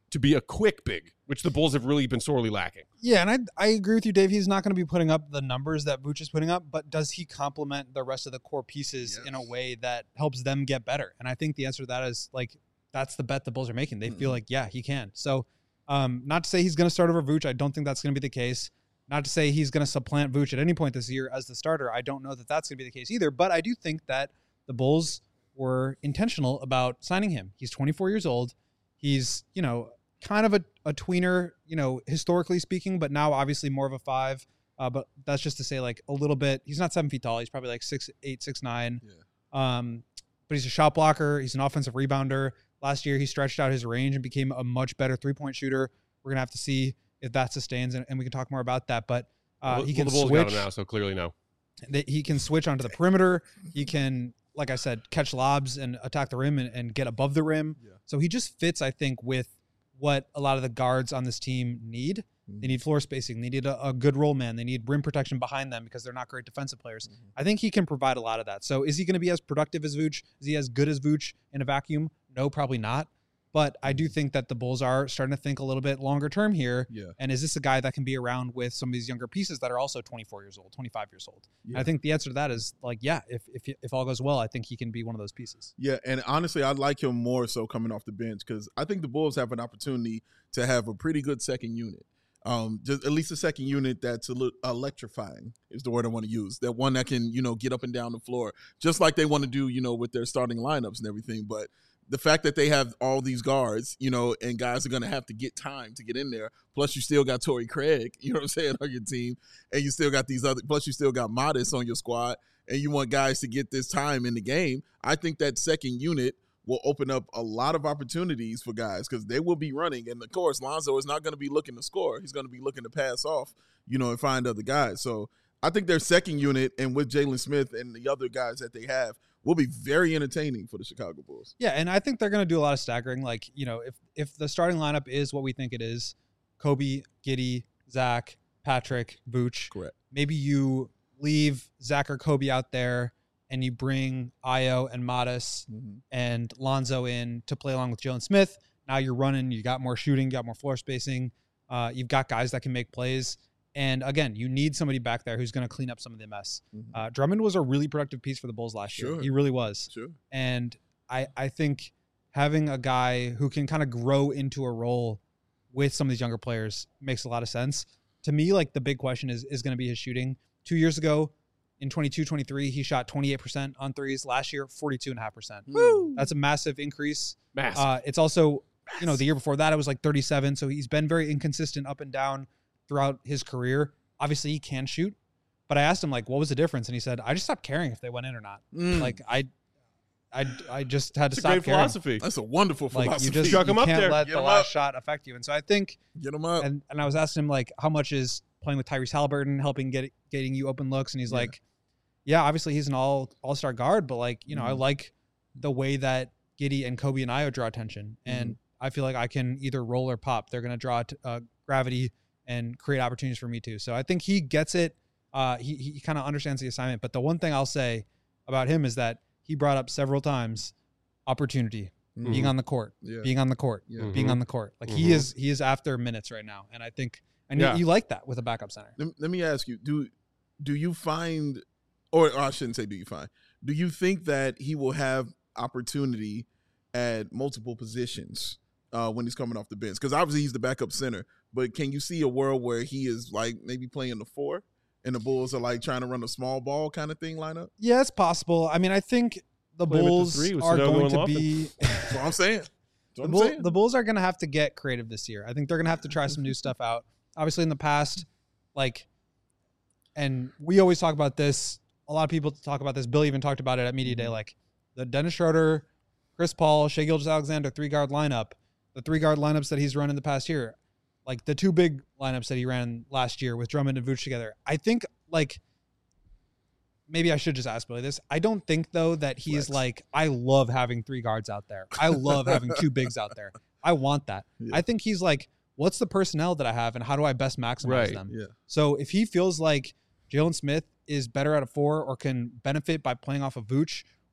to be a quick big, which the Bulls have really been sorely lacking. Yeah, and I I agree with you, Dave. He's not going to be putting up the numbers that Vooch is putting up, but does he complement the rest of the core pieces Yes. in a way that helps them get better? And I think the answer to that is like that's the bet the Bulls are making. They mm-hmm. feel like, yeah, he can. So um, not to say he's going to start over Vooch. I don't think that's going to be the case. Not to say he's going to supplant Vooch at any point this year as the starter. I don't know that that's going to be the case either. But I do think that the Bulls were intentional about signing him. He's twenty-four years old. He's, you know, kind of a, a tweener, you know, historically speaking, but now obviously more of a five. Uh, but that's just to say, like, a little bit. He's not seven feet tall. He's probably like six, eight, six, nine. Yeah. Um, but he's a shot blocker. He's an offensive rebounder. Last year, he stretched out his range and became a much better three-point shooter. We're gonna have to see if that sustains, and, and we can talk more about that. But uh, well, he can well, the Bulls switch got him now, so clearly no. He can switch onto the perimeter. He can, like I said, catch lobs and attack the rim and, and get above the rim. Yeah. So he just fits, I think, with what a lot of the guards on this team need. Mm-hmm. They need floor spacing. They need a, a good roll man. They need rim protection behind them because they're not great defensive players. Mm-hmm. I think he can provide a lot of that. So is he going to be as productive as Vooch? Is he as good as Vooch in a vacuum? No, probably not. But I do think that the Bulls are starting to think a little bit longer term here. Yeah. And is this a guy that can be around with some of these younger pieces that are also twenty-four years old, twenty-five years old? Yeah. I think the answer to that is like, yeah, if, if if all goes well, I think he can be one of those pieces. Yeah, and honestly, I like him more so coming off the bench because I think the Bulls have an opportunity to have a pretty good second unit. Um, just at least a second unit that's a little electrifying is the word I want to use. That one that can, you know, get up and down the floor, just like they want to do, you know, with their starting lineups and everything. But the fact that they have all these guards, you know, and guys are going to have to get time to get in there. Plus, you still got Torrey Craig, you know what I'm saying, on your team. And you still got these other, plus you still got Modest on your squad. And you want guys to get this time in the game. I think that second unit will open up a lot of opportunities for guys because they will be running. And, of course, Lonzo is not going to be looking to score. He's going to be looking to pass off, you know, and find other guys. So I think their second unit and with Jalen Smith and the other guys that they have will be very entertaining for the Chicago Bulls. Yeah, and I think they're going to do a lot of staggering. Like, you know, if if the starting lineup is what we think it is, Kobe, Giddey, Zach, Patrick, Vooch. Correct. Maybe you leave Zach or Kobe out there and you bring Ayo and Modest mm-hmm. and Lonzo in to play along with Jalen Smith. Now you're running. You got more shooting. You got more floor spacing. Uh, you've got guys that can make plays. And again, you need somebody back there who's going to clean up some of the mess. Mm-hmm. Uh, Drummond was a really productive piece for the Bulls last sure. year. He really was. Sure. And I, I think having a guy who can kind of grow into a role with some of these younger players makes a lot of sense. To me, like the big question is, is going to be his shooting. Two years ago in twenty-two twenty-three, he shot twenty-eight percent on threes. Last year, forty-two point five percent. Woo! That's a massive increase. Massive. Uh, it's also, you know, the year before that, it was like thirty-seven. So he's been very inconsistent up and down throughout his career. Obviously, he can shoot, but I asked him, like, what was the difference? And he said, I just stopped caring if they went in or not. Mm. Like, I I, I just had to That's stop a great caring. philosophy. That's a wonderful philosophy. Like, you just Chuck you him up can't there. let Get the him last up. shot affect you. And so I think, Get him up. and, and I was asking him, like, how much is playing with Tyrese Halliburton helping get getting you open looks? And he's Yeah. like, yeah, obviously he's an all all-star guard, but, like, you know, Mhm. I like the way that Giddey and Kobe and Ayo draw attention. And I feel like I can either roll or pop. They're going to draw t- uh, gravity and create opportunities for me too. So I think he gets it. Uh, he he kind of understands the assignment. But the one thing I'll say about him is that he brought up several times opportunity, Mhm. being on the court, Yeah. being on the court, Yeah. being Mhm. on the court. Like Mhm. he is he is after minutes right now, and I think and Yeah. you, you like that with a backup center. Let, let me ask you: Do do you find, or, or I shouldn't say, do you find? Do you think that he will have opportunity at multiple positions uh, when he's coming off the bench? Because obviously he's the backup center, but can you see a world where he is like maybe playing the four, and the Bulls are like trying to run a small ball kind of thing lineup? Yeah, it's possible. I mean, I think the Play him at the Bulls three with are Sudoku going and to Lofton. be. That's what I'm saying. That's what The, I'm Bull, saying. the Bulls are going to have to get creative this year. I think they're going to have to try some new stuff out. Obviously, in the past, like, and we always talk about this. A lot of people talk about this. Bill even talked about it at Media Day. Like, the Dennis Schroeder, Chris Paul, Shai Gilgeous-Alexander three-guard lineup, the three-guard lineups that he's run in the past year, like the two big lineups that he ran last year with Drummond and Vooch together. I think, like, maybe I should just ask Billy this. I don't think, though, that he's Flex. like, I love having three guards out there. I love having two bigs out there. I want that. Yeah. I think he's like, what's the personnel that I have and how do I best maximize Right. them? Yeah. So if he feels like Jalen Smith is better at a four or can benefit by playing off of Vooch,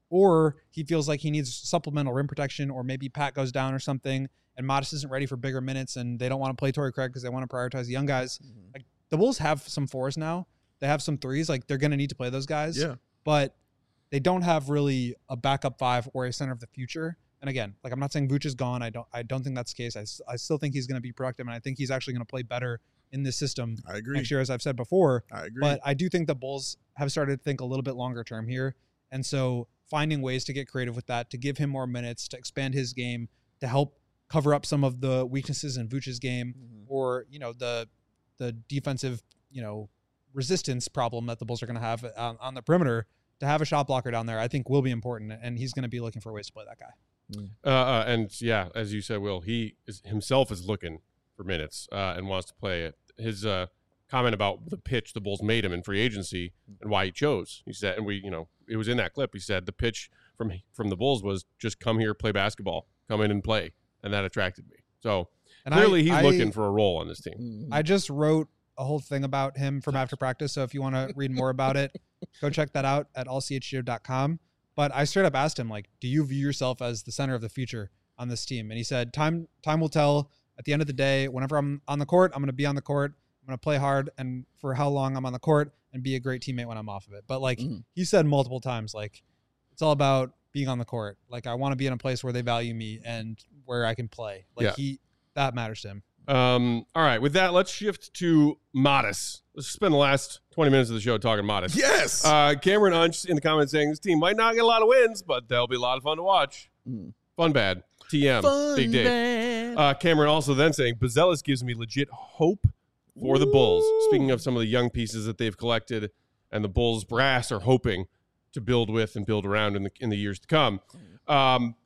or he feels like he needs supplemental rim protection, or maybe Pat goes down or something, and Modest isn't ready for bigger minutes, and they don't want to play Torrey Craig because they want to prioritize the young guys. Mm-hmm. Like the Bulls have some fours now. They have some threes. Like they're going to need to play those guys. Yeah. But they don't have really a backup five or a center of the future. And again, like I'm not saying Vooch is gone. I don't. I don't think that's the case. I, I still think he's going to be productive, and I think he's actually going to play better in this system I agree. next year, as I've said before. I agree. But I do think the Bulls have started to think a little bit longer term here, and so finding ways to get creative with that, to give him more minutes, to expand his game, to help cover up some of the weaknesses in Vooch's game, mm-hmm. or you know the the defensive you know resistance problem that the Bulls are going to have on, on the perimeter. To have a shot blocker down there, I think will be important, and he's going to be looking for ways to play that guy. Mm. Uh, uh, and yeah, as you said, Will, he is, himself is looking for minutes uh, and wants to play it. His uh, comment about the pitch the Bulls made him in free agency and why he chose, he said, and we, you know, it was in that clip. He said the pitch from from the Bulls was just come here, play basketball, come in and play, and that attracted me. So and clearly, I, he's I, looking for a role on this team. I just wrote a whole thing about him from after practice, so if you want to read more about it, go check that out at all c h g o dot com. But I straight up asked him, like, do you view yourself as the center of the future on this team? And he said, time time will tell. At the end of the day, whenever I'm on the court, I'm going to be on the court. I'm going to play hard, and for how long I'm on the court, and be a great teammate when I'm off of it. But, like, mm. he said multiple times, like, it's all about being on the court. Like, I want to be in a place where they value me and where I can play. Like, yeah. he that matters to him. Um, all right, with that, let's shift to Modest. Let's spend the last twenty minutes of the show talking Modest. Yes. Uh, Cameron Unch in the comments saying this team might not get a lot of wins, but they'll be a lot of fun to watch. Mm. Fun bad. T M. Fun Big Dave. bad. Uh, Cameron also then saying Buzelis gives me legit hope for Ooh. the Bulls. Speaking of some of the young pieces that they've collected, and the Bulls brass are hoping to build with and build around in the in the years to come. Um,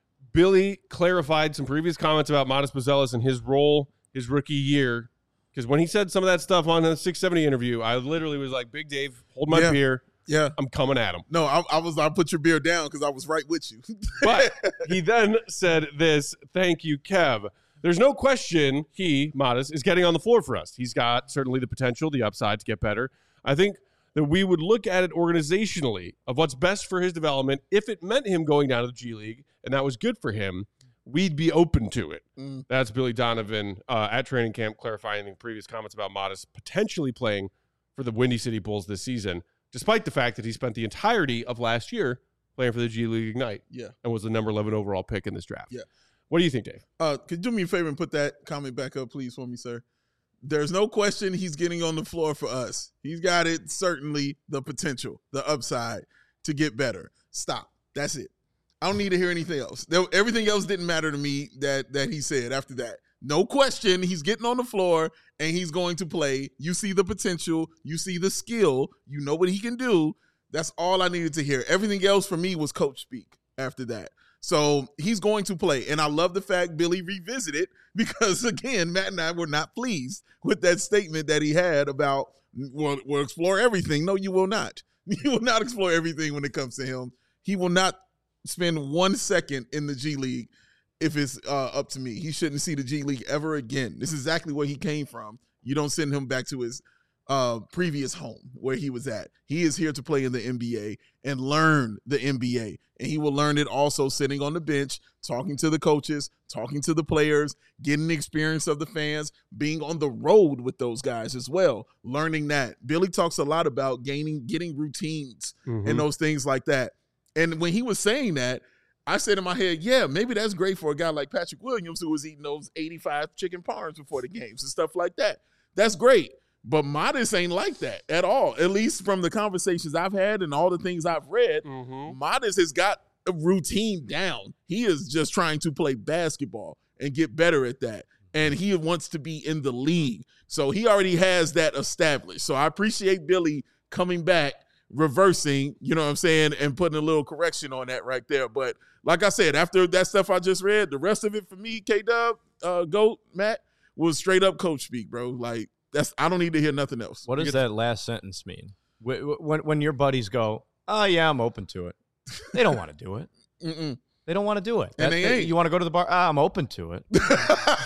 Billy clarified some previous comments about Modest Buzelis and his role his rookie year, because when he said some of that stuff on the six seventy interview, I literally was like, Big Dave, hold my yeah. beer. Yeah. I'm coming at him. No, I, I was, I put your beer down because I was right with you. But he then said this, thank you, Kev. There's no question he, Modest, is getting on the floor for us. He's got certainly the potential, the upside to get better. I think that we would look at it organizationally of what's best for his development. If it meant him going down to the G League and that was good for him, we'd be open to it. Mm. That's Billy Donovan uh, at training camp clarifying the previous comments about Modest potentially playing for the Windy City Bulls this season, despite the fact that he spent the entirety of last year playing for the G League Ignite. Yeah. And was the number eleven overall pick in this draft. Yeah. What do you think, Dave? Uh, could you do me a favor and put that comment back up, please, for me, sir? There's no question he's getting on the floor for us. He's got it, certainly, the potential, the upside to get better. Stop. That's it. I don't need to hear anything else. There, everything else didn't matter to me that that he said after that. No question, he's getting on the floor and he's going to play. You see the potential. You see the skill. You know what he can do. That's all I needed to hear. Everything else for me was coach speak after that. So he's going to play. And I love the fact Billy revisited because, again, Matt and I were not pleased with that statement that he had about, we'll, we'll explore everything. No, you will not. You will not explore everything when it comes to him. He will not spend one second in the G League if it's uh, up to me. He shouldn't see the G League ever again. This is exactly where he came from. You don't send him back to his uh, previous home where he was at. He is here to play in the N B A and learn the N B A. And he will learn it also sitting on the bench, talking to the coaches, talking to the players, getting the experience of the fans, being on the road with those guys as well, learning that. Billy talks a lot about gaining, getting routines mm-hmm. and those things like that. And when he was saying that, I said in my head, yeah, maybe that's great for a guy like Patrick Williams who was eating those eighty-five chicken parms before the games and stuff like that. That's great. But Modest ain't like that at all, at least from the conversations I've had and all the things I've read. Mm-hmm. Modest has got a routine down. He is just trying to play basketball and get better at that. And he wants to be in the league. So he already has that established. So I appreciate Billy coming back, reversing, you know what I'm saying, and putting a little correction on that right there. But like I said, after that stuff I just read, the rest of it for me, K-Dub, uh, Goat, Matt, was straight up coach speak, bro. Like, that's I don't need to hear nothing else. What does that last sentence mean? When, when your buddies go, oh, yeah, I'm open to it. They don't want to do it. Mm-mm. They don't want to do it. And that, they they, ain't. You want to go to the bar? Ah, I'm open to it.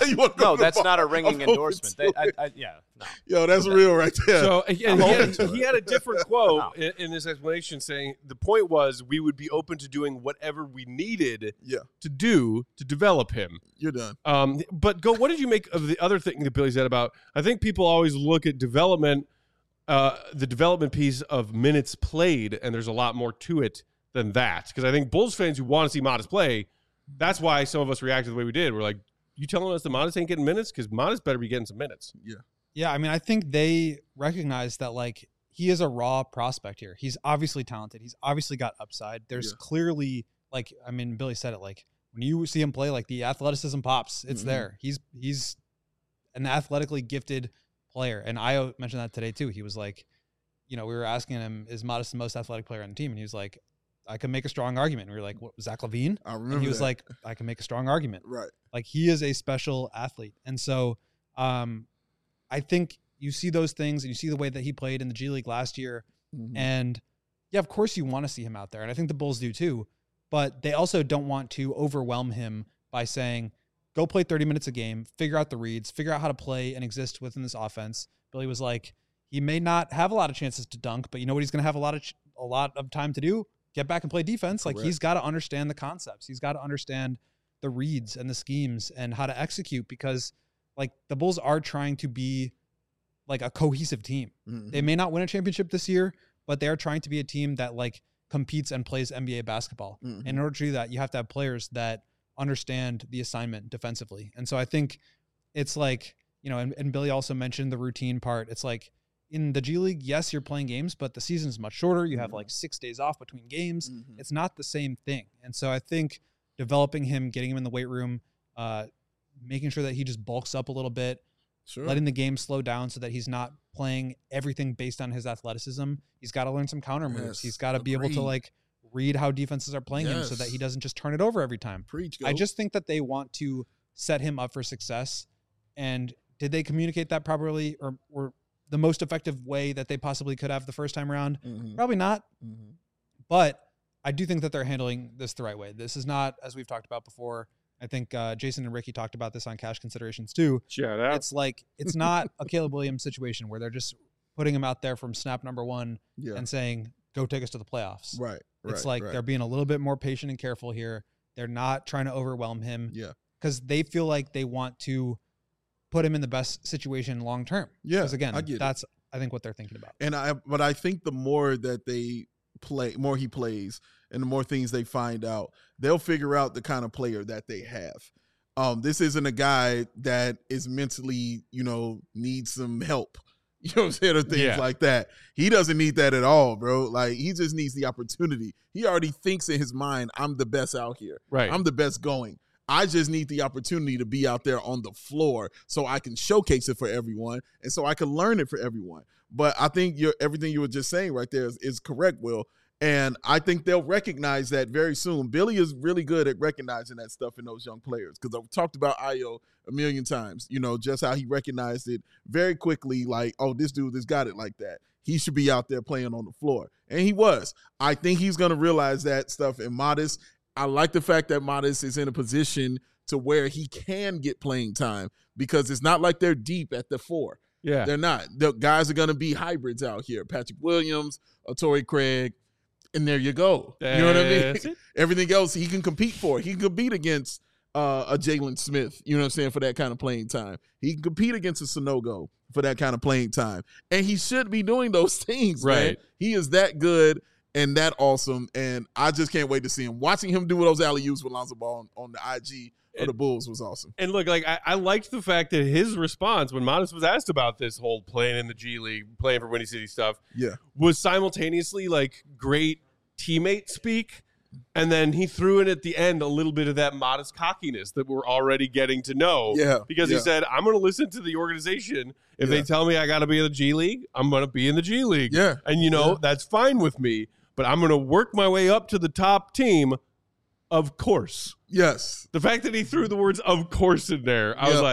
you wanna go No, to the that's bar? not a ringing I'm open endorsement. to They, it. I, I, yeah, no. Yo, that's real right there. So and he, I'm had, open to he it. had a different quote in, in this explanation saying the point was we would be open to doing whatever we needed Yeah. to do to develop him. You're done. Um, but go. What did you make of the other thing that Billy said about? I think people always look at development, uh, the development piece of minutes played, and there's a lot more to it than that. Because I think Bulls fans who want to see Modest play, that's why some of us reacted the way we did. We're like, you telling us that Modest ain't getting minutes? Because Modest better be getting some minutes. Yeah. Yeah, I mean, I think they recognize that, like, he is a raw prospect here. He's obviously talented. He's obviously got upside. There's Yeah. clearly, like, I mean, Billy said it, like, when you see him play, like, the athleticism pops. It's Mhm. there. He's he's an athletically gifted player. And I mentioned that today, too. He was like, you know, we were asking him, is Modest the most athletic player on the team? And he was like, I can make a strong argument. And we were like, what, Zach LaVine? I remember And he was that. like, I can make a strong argument. Right. Like, he is a special athlete. And so um, I think you see those things and you see the way that he played in the G League last year. Mhm. And yeah, of course you want to see him out there. And I think the Bulls do too. But they also don't want to overwhelm him by saying, go play thirty minutes a game, figure out the reads, figure out how to play and exist within this offense. Billy was like, he may not have a lot of chances to dunk, but you know what he's going to have a lot of ch- a lot of time to do? Get back and play defense. Like, Correct. he's got to understand the concepts. He's got to understand the reads and the schemes and how to execute, because like the Bulls are trying to be like a cohesive team. Mhm. They may not win a championship this year, but they are trying to be a team that like competes and plays N B A basketball. Mhm. And in order to do that, you have to have players that understand the assignment defensively. And so I think it's like, you know, and, and Billy also mentioned the routine part. It's like in the G League, yes, you're playing games, but the season is much shorter. You have like six days off between games. Mhm. It's not the same thing. And so I think developing him, getting him in the weight room, uh, making sure that he just bulks up a little bit, Sure. letting the game slow down so that he's not playing everything based on his athleticism. He's got to learn some counter moves. Yes, He's got to be able agreed. to like read how defenses are playing him so that he doesn't just turn it over every time. Preach. I Go. just think that they want to set him up for success. And did they communicate that properly, or, or the most effective way that they possibly could have the first time around? Mhm. Probably not. Mhm. But I do think that they're handling this the right way. This is not, as we've talked about before, I think uh, Jason and Ricky talked about this on Cash Considerations too. Shout out. It's like, it's not a Caleb Williams situation where they're just putting him out there from snap number one Yeah. and saying, go take us to the playoffs. Right. Right. It's like right. they're being a little bit more patient and careful here. They're not trying to overwhelm him Yeah. because they feel like they want to put him in the best situation long term. Yeah. Because again, I get it. that's, I think, what they're thinking about. And I, but I think the more that they play, more he plays, and the more things they find out, they'll figure out the kind of player that they have. Um, this isn't a guy that is mentally, you know, needs some help. You know what I'm saying? Or things Yeah. like that. He doesn't need that at all, bro. Like, he just needs the opportunity. He already thinks in his mind, I'm the best out here. Right. I'm the best going. I just need the opportunity to be out there on the floor so I can showcase it for everyone and so I can learn it for everyone. But I think you're, everything you were just saying right there is, is correct, Will. And I think they'll recognize that very soon. Billy is really good at recognizing that stuff in those young players, because I've talked about Ayo a million times, you know, just how he recognized it very quickly, like, oh, this dude has got it like that. He should be out there playing on the floor. And he was. I think he's going to realize that stuff in Modest. I like the fact that Modest is in a position to where he can get playing time, because it's not like they're deep at the four. Yeah. They're not. The guys are going to be hybrids out here. Patrick Williams, uh, Torrey Craig, and there you go. You know what I mean? That's it. Everything else he can compete for. He can compete against uh, a Jalen Smith, you know what I'm saying, for that kind of playing time. He can compete against a Sonogo for that kind of playing time. And he should be doing those things, man. Right. He is that good and that awesome, and I just can't wait to see him. Watching him do those alley-oops with Lonzo Ball on, on the I G of the Bulls was awesome. And look, like I, I liked the fact that his response when Modest was asked about this whole playing in the G League, playing for Windy City stuff, Yeah. was simultaneously like great teammate speak, and then he threw in at the end a little bit of that Modest cockiness that we're already getting to know. Yeah, because yeah. he said, "I'm going to listen to the organization. If Yeah. they tell me I got to be in the G League, I'm going to be in the G League. Yeah. and you know Yeah. that's fine with me. But I'm going to work my way up to the top team, of course." Yes. The fact that he threw the words "of course" in there, I was Yeah. like,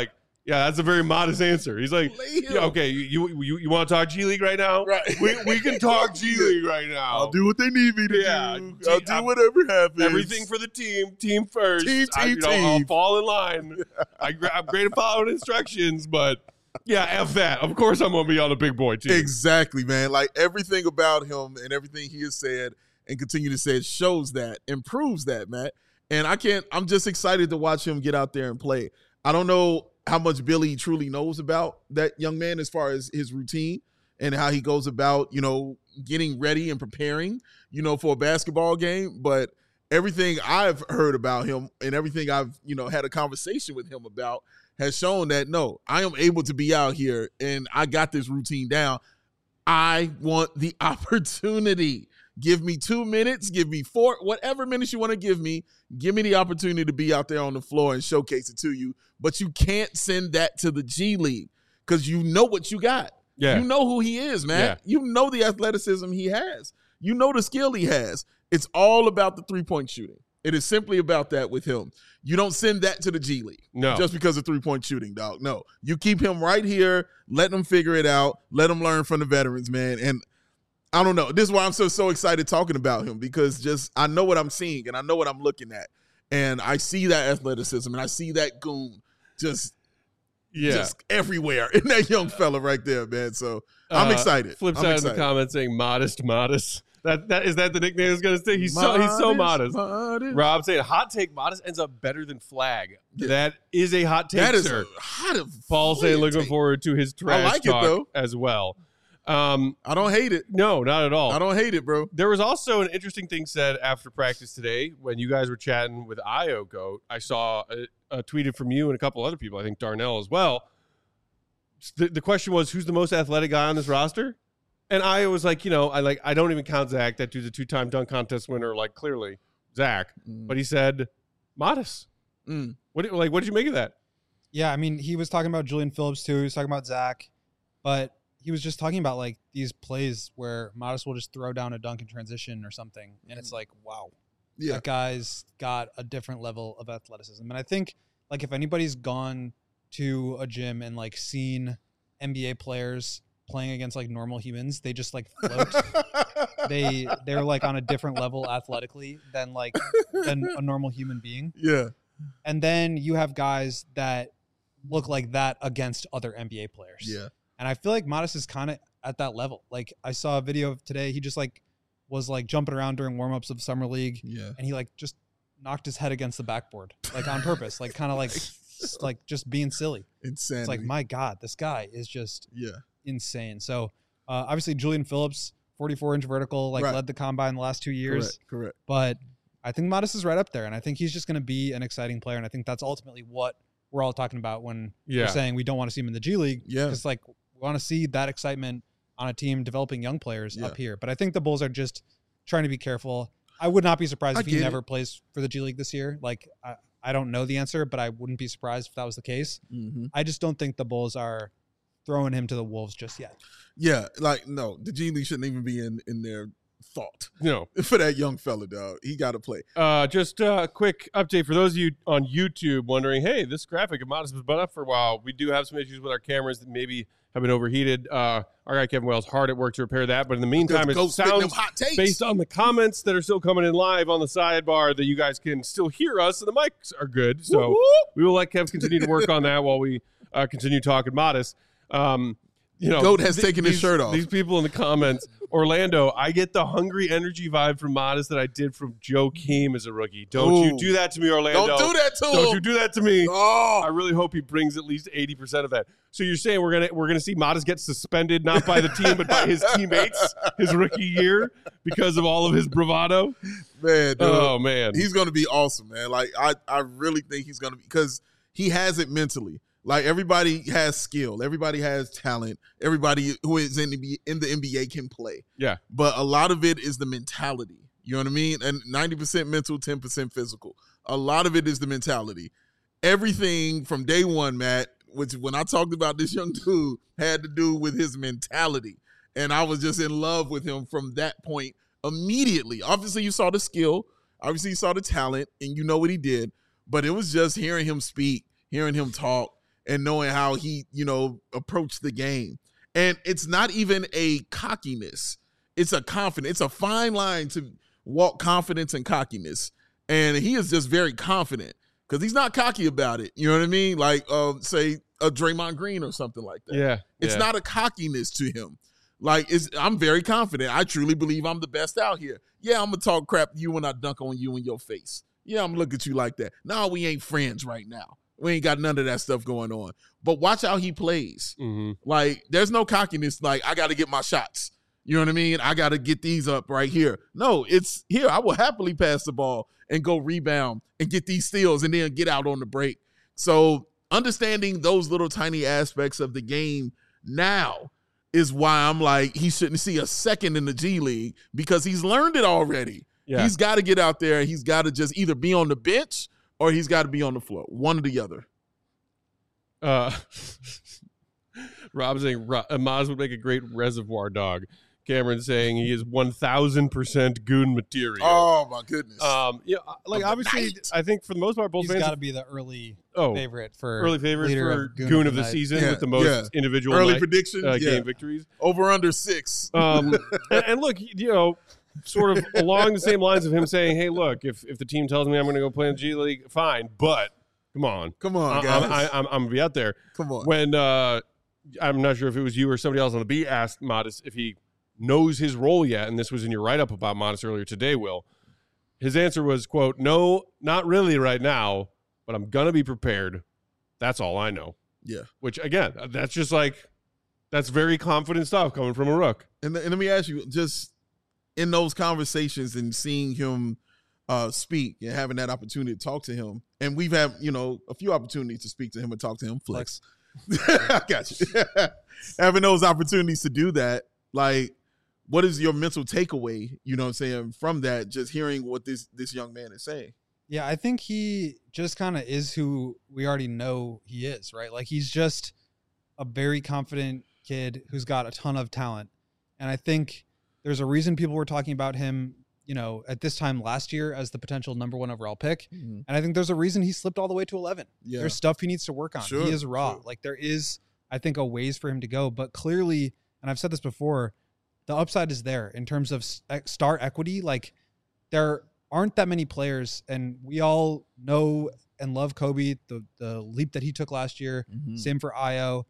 Yeah, that's a very modest answer. He's like, yeah, okay, you you you want to talk G League right now? Right. We we can talk G League right now. I'll do what they need me to Yeah, do. G- I'll do I'm- whatever happens. Everything for the team, team first. Team, I, team, you know, I'll team. fall in line. I, gra- I'm great at following instructions, but yeah, F that. Of course, I'm gonna be on a big boy team. Exactly, man. Like everything about him and everything he has said and continue to say shows that, improves that, Matt. And I can't, I'm just excited to watch him get out there and play. I don't know how much Billy truly knows about that young man as far as his routine and how he goes about, you know, getting ready and preparing, you know, for a basketball game. But everything I've heard about him and everything I've, you know, had a conversation with him about has shown that, no, I am able to be out here and I got this routine down. I want the opportunity. Give me two minutes, give me four, whatever minutes you want to give me. Give me the opportunity to be out there on the floor and showcase it to you. But you can't send that to the G League because you know what you got. Yeah. You know who he is, man. Yeah. You know the athleticism he has. You know the skill he has. It's all about the three-point shooting. It is simply about that with him. You don't send that to the G League No. just because of three-point shooting, dog. No. You keep him right here. Let him figure it out. Let him learn from the veterans, man. And I don't know. This is why I'm so, so excited talking about him because just I know what I'm seeing and I know what I'm looking at. And I see that athleticism and I see that goon just, Yeah. just everywhere in that young fella right there, man. So I'm Uh, excited. Flip I'm side in excited. the comments saying modest, modest. That that is that the nickname is gonna say. He's so he's so modest. modest. Rob saying hot take modest ends up better than flag. Yeah. That is a hot take, That is sir. a hot of Paul saying looking take. forward to his trash like it, talk though. as well. Um, I don't hate it. no, not at all. I don't hate it, bro. There was also an interesting thing said after practice today when you guys were chatting with Io Goat. I saw a, a tweeted from you and a couple other people, I think Darnell as well. The, the question was, who's the most athletic guy on this roster? And Io was like, you know, I like I don't even count Zach. That dude's a two-time dunk contest winner, like clearly Zach. Mm. But he said, modest. Mm. What do- like? What did you make of that? Yeah, I mean, he was talking about Julian Phillips too. He was talking about Zach, but he was just talking about like these plays where Modest will just throw down a dunk in transition or something, and it's like, wow, Yeah. that guy's got a different level of athleticism. And I think like if anybody's gone to a gym and like seen N B A players playing against like normal humans, they just like float. they they're like on a different level athletically than like than a normal human being. Yeah. And then you have guys that look like that against other N B A players. Yeah. And I feel like Modest is kind of at that level. Like I saw a video of today, he just like was like jumping around during warmups of summer league, Yeah. and he like just knocked his head against the backboard, like on purpose, like kind of like s- like just being silly. Insanity. It's like, my God, this guy is just yeah. insane. So uh, obviously Julian Phillips, forty-four inch vertical, like Right. led the combine the last two years. Correct. Correct. But I think Modest is right up there, and I think he's just going to be an exciting player. And I think that's ultimately what we're all talking about when Yeah. we're saying we don't want to see him in the G League. Yeah. It's like we want to see that excitement on a team developing young players Yeah. up here. But I think the Bulls are just trying to be careful. I would not be surprised I if he get never it. plays for the G League this year. Like, I, I don't know the answer, but I wouldn't be surprised if that was the case. Mm-hmm. I just don't think the Bulls are throwing him to the Wolves just yet. Yeah. Like, no, the G League shouldn't even be in, in their thought No. for that young fella, dog. He got to play. Uh, just a quick update for those of you on YouTube wondering, hey, this graphic of Modest has been up for a while. We do have some issues with our cameras that maybe have been overheated. Uh, our guy Kevin Wells hard at work to repair that. But in the meantime, it Go spit them sounds hot takes. based on the comments that are still coming in live on the sidebar that you guys can still hear us and the mics are good. So Whoop, whoop. we will let Kev continue to work on that while we uh, continue talking Modest. Um, you know, Goat has th- taken his these- shirt off. These people in the comments, Orlando, I get the hungry energy vibe from Modest that I did from Joe Keem as a rookie. Don't Ooh. you do that to me, Orlando. Don't do that to him. Don't you do that to me. Oh. I really hope he brings at least eighty percent of that. So you're saying we're gonna we're gonna see Modest get suspended not by the team but by his teammates his rookie year because of all of his bravado? Man, dude. Oh man, He's going to be awesome, man. Like, I, I really think he's going to be, because he has it mentally. Like, everybody has skill. Everybody has talent. Everybody who is in the, in the N B A can play. yeah, But a lot of it is the mentality. You know what I mean? And ninety percent mental, ten percent physical. A lot of it is the mentality. Everything from day one, Matt, which when I talked about this young dude, had to do with his mentality. And I was just in love with him from that point immediately. Obviously, you saw the skill. Obviously, you saw the talent, and you know what he did. But it was just hearing him speak, hearing him talk, and knowing how he, you know, approached the game. And it's not even a cockiness. It's a confidence. It's a fine line to walk confidence and cockiness. And he is just very confident because he's not cocky about it. You know what I mean? Like, uh, say, a Draymond Green or something like that. Yeah. It's yeah. not a cockiness to him. Like, it's, I'm very confident. I truly believe I'm the best out here. Yeah, I'm going to talk crap to you when I dunk on you in your face. Yeah, I'm going to look at you like that. No, we ain't friends right now. We ain't got none of that stuff going on. But watch how he plays. Mm-hmm. Like, there's no cockiness. Like, I got to get my shots. You know what I mean? I got to get these up right here. No, it's here. I will happily pass the ball and go rebound and get these steals and then get out on the break. So understanding those little tiny aspects of the game now is why I'm like, he shouldn't see a second in the G League because he's learned it already. Yeah. He's got to get out there. He's got to just either be on the bench or he's got to be on the floor. One or the other. Uh, Rob saying Maz would make a great reservoir dog. Cameron saying he is one thousand percent goon material. Oh, my goodness. Um, yeah, like obviously, night. I think for the most part, Bulls He's fans got to be the early oh, favorite for early favorite leader for of goon, Goon of the night. season Yeah, with the most yeah. individual Early night, predictions, uh, yeah. game victories. Over under six. Um, and, and look, you know, sort of along the same lines of him saying, "Hey, look, if if the team tells me I'm going to go play in the G League, fine, but come on, Come on, I, guys. I, I, I'm, I'm gonna be out there." Come on. When uh, I'm not sure if it was you or somebody else on the beat asked Modest if he knows his role yet, and this was in your write-up about Modest earlier today, Will. His answer was, quote, "No, not really right now, but I'm gonna be prepared. That's all I know." Yeah. Which again, that's just like that's very confident stuff coming from a rook. And, and let me ask you, just in those conversations and seeing him uh, speak and having that opportunity to talk to him, and we've had, you know, a few opportunities to speak to him and talk to him. Flex. I got you. Having those opportunities to do that, like, what is your mental takeaway, you know what I'm saying, from that, just hearing what this this young man is saying? Yeah, I think he just kind of is who we already know he is, right? Like, he's just a very confident kid who's got a ton of talent. And I think there's a reason people were talking about him, you know, at this time last year as the potential number one overall pick. Mm-hmm. And I think there's a reason he slipped all the way to eleven. Yeah. There's stuff he needs to work on. Sure, he is raw. sure. Like, there is, I think, a ways for him to go. But clearly, and I've said this before, the upside is there in terms of star equity. Like, there aren't that many players, and we all know and love Kobe, the the leap that he took last year. Mm-hmm. Same for Io.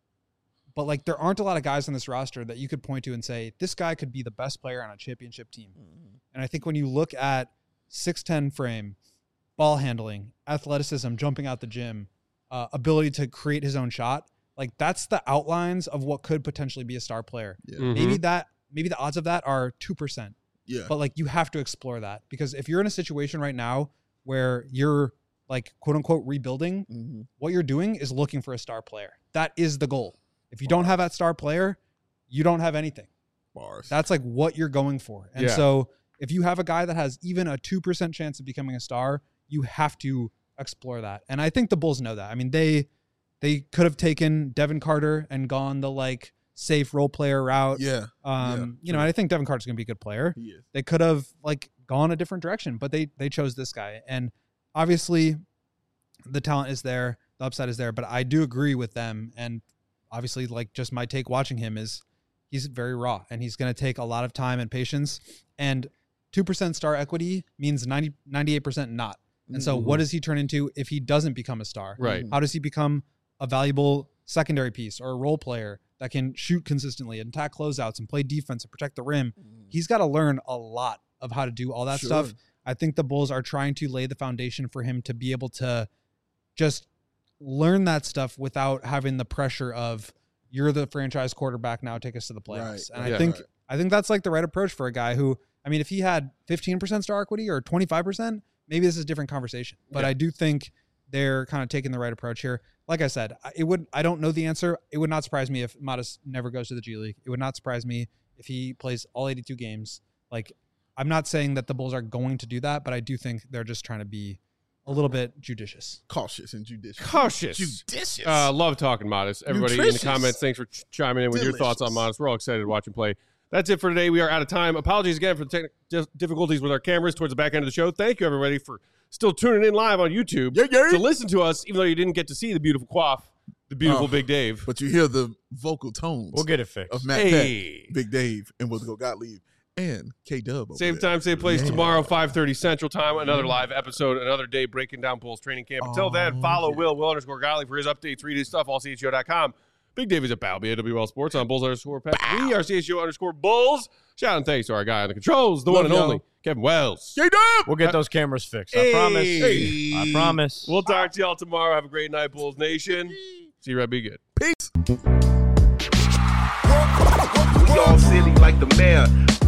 But, like, there aren't a lot of guys on this roster that you could point to and say, this guy could be the best player on a championship team. Mm-hmm. And I think when you look at six ten frame, ball handling, athleticism, jumping out the gym, uh, ability to create his own shot, like, that's the outlines of what could potentially be a star player. Yeah. Mhm. Maybe that, maybe the odds of that are two percent. Yeah. But, like, you have to explore that, because if you're in a situation right now where you're, like, quote unquote rebuilding, Mm-hmm. what you're doing is looking for a star player. That is the goal. If you don't have that star player, you don't have anything. Bars. That's like what you're going for. And Yeah. so if you have a guy that has even a two percent chance of becoming a star, you have to explore that. And I think the Bulls know that. I mean, they they could have taken Devin Carter and gone the, like, safe role player route. yeah. Um, yeah, you know, and I think Devin Carter's going to be a good player. He is. They could have, like, gone a different direction, but they they chose this guy. And obviously the talent is there, the upside is there, but I do agree with them. And obviously, like, just my take watching him is he's very raw, and he's going to take a lot of time and patience. And two percent star equity means ninety, ninety-eight percent not. And so Mm-hmm. what does he turn into if he doesn't become a star? Right. How does he become a valuable secondary piece or a role player that can shoot consistently and attack closeouts and play defense and protect the rim? He's got to learn a lot of how to do all that Sure. stuff. I think the Bulls are trying to lay the foundation for him to be able to just learn that stuff without having the pressure of, you're the franchise quarterback now, take us to the playoffs. Right, And yeah. I think right. I think that's like the right approach for a guy who, I mean, if he had fifteen percent star equity or twenty-five percent, maybe this is a different conversation. But Yeah. I do think they're kind of taking the right approach here. Like I said, I- it would I don't know the answer. It would not surprise me if Modest never goes to the G League. It would not surprise me if he plays all eighty-two games. Like, I'm not saying that the Bulls are going to do that, but I do think they're just trying to be a little bit judicious. Cautious and judicious. Cautious. Judicious. Uh, love talking Modest. Everybody in the Nutritious. comments, thanks for ch- chiming in with your thoughts on Delicious. Modest. We're all excited to watch him play. That's it for today. We are out of time. Apologies again for the technical dif- difficulties with our cameras towards the back end of the show. Thank you, everybody, for still tuning in live on YouTube Yeah, yeah. to listen to us, even though you didn't get to see the beautiful quaff the beautiful Oh, Big Dave. But you hear the vocal tones We'll get it fixed. of Matt Hey. Peck, Big Dave, and we'll go Gottlieb and K Dub. Same time, same place tomorrow, five thirty Central Time. Another live episode, another day breaking down Bulls training camp. Until then, follow Will, Will underscore Gottlieb for his updates. Read his stuff, all C H G O dot com. Big Dave is at Balby at W L Sports on Bulls underscore Pep. We are C H G O underscore Bulls. Shout out and thanks to our guy on the controls, the Love one and y'all. only, Kevin Wells. K Dub. We'll get those cameras fixed. I Hey. promise. Hey. I promise. We'll talk to y'all tomorrow. Have a great night, Bulls Nation. See you right. Be good. Peace. We all silly like the mayor.